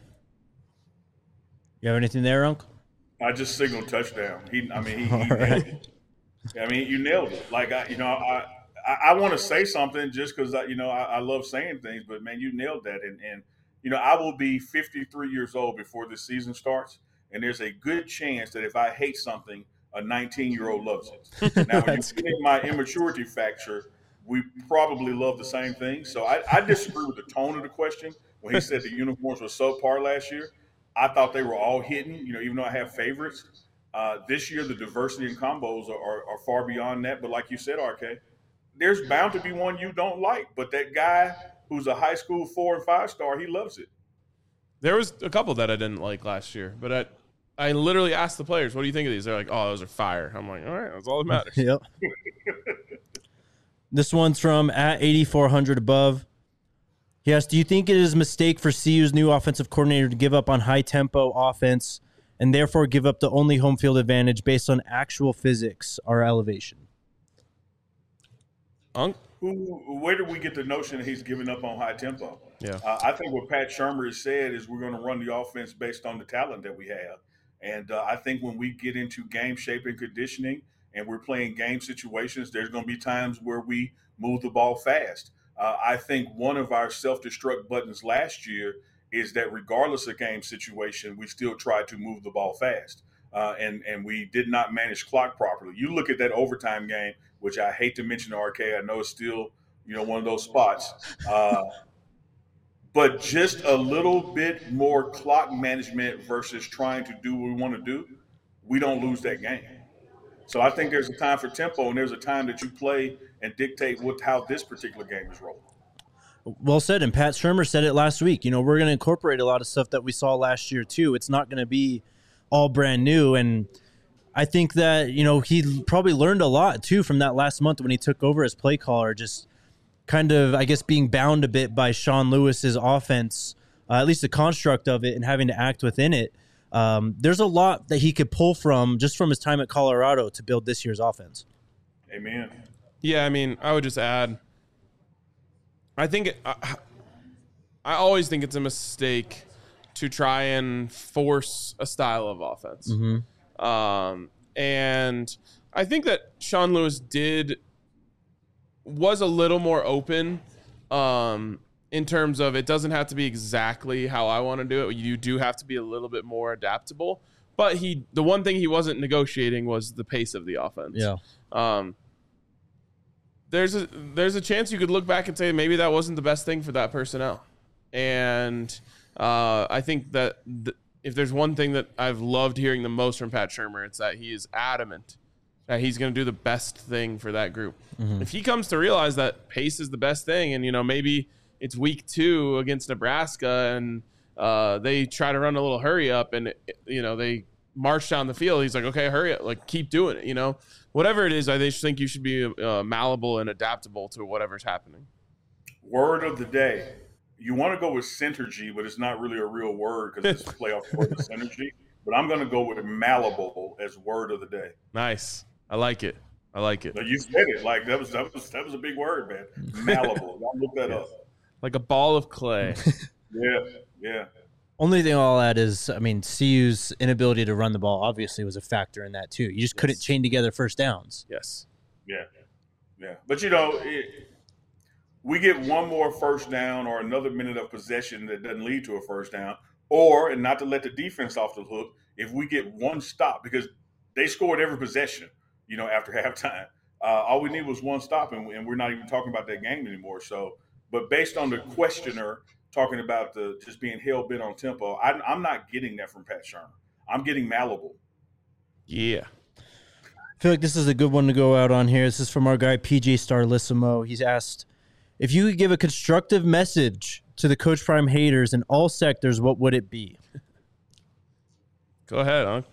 Speaker 1: You have anything there, Uncle?
Speaker 3: I just signaled touchdown. He, I mean, he, he
Speaker 1: All
Speaker 3: nailed
Speaker 1: right.
Speaker 3: it. I mean, you nailed it. Like, I, you know, I, I, I want to say something just because, you know, I, I love saying things, but man, you nailed that. And, and, you know, I will be fifty-three years old before this season starts. And there's a good chance that if I hate something, a nineteen-year-old loves it. Now, when you get in my immaturity factor, we probably love the same thing. So I, I disagree with the tone of the question when he said the uniforms were subpar last year. I thought they were all hidden, you know, even though I have favorites. Uh, this year, the diversity in combos are, are, are far beyond that. But like you said, R K, there's bound to be one you don't like. But that guy who's a high school four and five star, he loves it.
Speaker 2: There was a couple that I didn't like last year, but I, I literally asked the players, what do you think of these? They're like, oh, those are fire. I'm like, all right, that's all that matters.
Speaker 1: Yep. This one's from at eighty-four hundred above. He asks, do you think it is a mistake for C U's new offensive coordinator to give up on high-tempo offense and therefore give up the only home field advantage based on actual physics or elevation?
Speaker 2: Unc?
Speaker 3: Who, where did we get the notion that he's giving up on high tempo?
Speaker 2: Yeah.
Speaker 3: Uh, I think what Pat Shurmur has said is we're going to run the offense based on the talent that we have. And uh, I think when we get into game shape and conditioning and we're playing game situations, there's going to be times where we move the ball fast. Uh, I think one of our self-destruct buttons last year is that regardless of game situation, we still tried to move the ball fast. Uh, and, and we did not manage clock properly. You look at that overtime game, which I hate to mention, R K. I know it's still, you know, one of those spots. Uh, but just a little bit more clock management versus trying to do what we want to do, we don't lose that game. So I think there's a time for tempo, and there's a time that you play and dictate what how this particular game is rolling.
Speaker 1: Well said, and Pat Shurmur said it last week. You know, we're going to incorporate a lot of stuff that we saw last year too. It's not going to be all brand new, and I think that, you know, he probably learned a lot too from that last month when he took over as play caller, just kind of, I guess, being bound a bit by Sean Lewis's offense, uh, at least the construct of it, and having to act within it. Um, there's a lot that he could pull from just from his time at Colorado to build this year's offense.
Speaker 3: Amen.
Speaker 2: Yeah, I mean, I would just add, I think it, I, I always think it's a mistake to try and force a style of offense.
Speaker 1: Mm-hmm.
Speaker 2: Um, and I think that Sean Lewis did was a little more open um, in terms of it doesn't have to be exactly how I want to do it. You do have to be a little bit more adaptable. But he, the one thing he wasn't negotiating was the pace of the offense.
Speaker 1: Yeah. Um,
Speaker 2: there's a there's a chance you could look back and say maybe that wasn't the best thing for that personnel. And uh, I think that th- if there's one thing that I've loved hearing the most from Pat Shurmur, it's that he is adamant that he's going to do the best thing for that group. Mm-hmm. If he comes to realize that pace is the best thing, and, you know, maybe it's week two against Nebraska and uh, they try to run a little hurry up and, you know, they march down the field. He's like, okay, hurry up, like keep doing it. You know, whatever it is, I just think you should be uh, malleable and adaptable to whatever's happening.
Speaker 3: Word of the day. You want to go with synergy, but it's not really a real word because it's a playoff word of synergy. But I'm going to go with malleable as word of the day.
Speaker 2: Nice. I like it. I like it.
Speaker 3: But you said it like that was that was that was a big word, man. Malleable. Y'all look that up.
Speaker 2: Like a ball of clay.
Speaker 3: Yeah, yeah.
Speaker 1: Only thing I'll add is, I mean, C U's inability to run the ball obviously was a factor in that too. You just yes. couldn't chain together first downs.
Speaker 2: Yes.
Speaker 3: Yeah, yeah. But you know, it, we get one more first down or another minute of possession that doesn't lead to a first down, or and not to let the defense off the hook, if we get one stop because they scored every possession. You know, after halftime, uh, all we need was one stop, and, and we're not even talking about that game anymore. So, but based on the questioner talking about the just being hell bent on tempo, I, I'm not getting that from Pat Shurmur. I'm getting malleable.
Speaker 2: Yeah,
Speaker 1: I feel like this is a good one to go out on here. This is from our guy P J Starlissimo. He's asked, if you could give a constructive message to the Coach Prime haters in all sectors, what would it be?
Speaker 2: Go ahead, huh?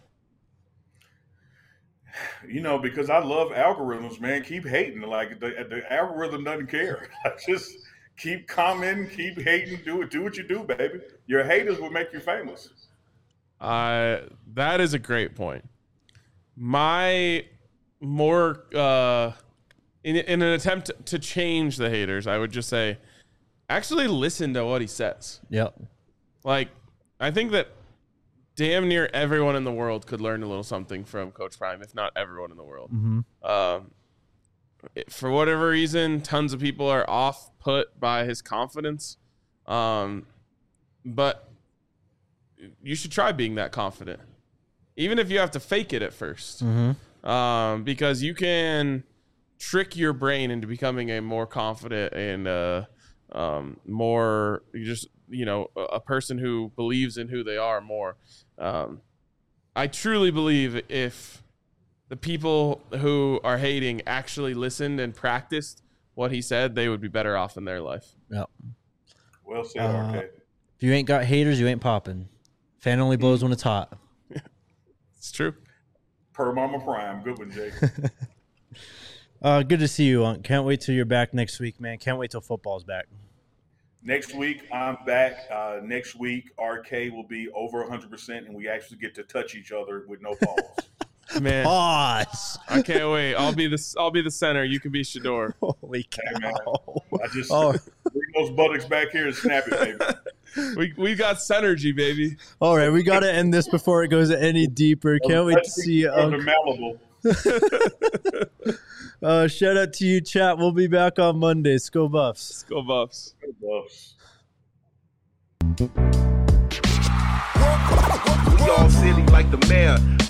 Speaker 3: You know, because I love algorithms, man. Keep hating. Like the, the algorithm doesn't care. Just keep commenting, keep hating. Do it. Do what you do, baby. Your haters will make you famous.
Speaker 2: Uh, that is a great point. My more uh, in in an attempt to change the haters, I would just say, actually listen to what he says.
Speaker 1: Yep.
Speaker 2: Like, I think that damn near everyone in the world could learn a little something from Coach Prime, if not everyone in the world.
Speaker 1: Mm-hmm.
Speaker 2: Um, it, for whatever reason, tons of people are off put by his confidence. Um, but you should try being that confident, even if you have to fake it at first.
Speaker 1: Mm-hmm.
Speaker 2: Um, because you can trick your brain into becoming a more confident and uh, um, more you just you know a person who believes in who they are more. Um, I truly believe if the people who are hating actually listened and practiced what he said, they would be better off in their life.
Speaker 1: Yep.
Speaker 3: Well said,
Speaker 1: uh,
Speaker 3: R K.
Speaker 1: If you ain't got haters, you ain't popping. Fan only blows when it's hot.
Speaker 2: It's true.
Speaker 3: Per Mama Prime. Good one, Jake.
Speaker 1: uh, good to see you, Unc. Can't wait till you're back next week, man. Can't wait till football's back.
Speaker 3: Next week, I'm back. Uh, next week, R K will be over one hundred percent, and we actually get to touch each other with no pause.
Speaker 2: Man,
Speaker 1: pause.
Speaker 2: I can't wait. I'll be the I'll be the center. You can be Shador.
Speaker 1: Holy cow!
Speaker 3: Hey, man. I just oh. bring those buttocks back here and snap it, baby.
Speaker 2: We we got synergy, baby.
Speaker 1: All right, we got to end this before it goes any deeper. Can't wait to see you,
Speaker 3: From
Speaker 1: Unc.
Speaker 3: the Malibu.
Speaker 1: Uh, shout out to you, chat. We'll be back on Monday. Let's go Buffs.
Speaker 2: Let's go Buffs.
Speaker 3: Buffs.
Speaker 4: We all silly like the mayor.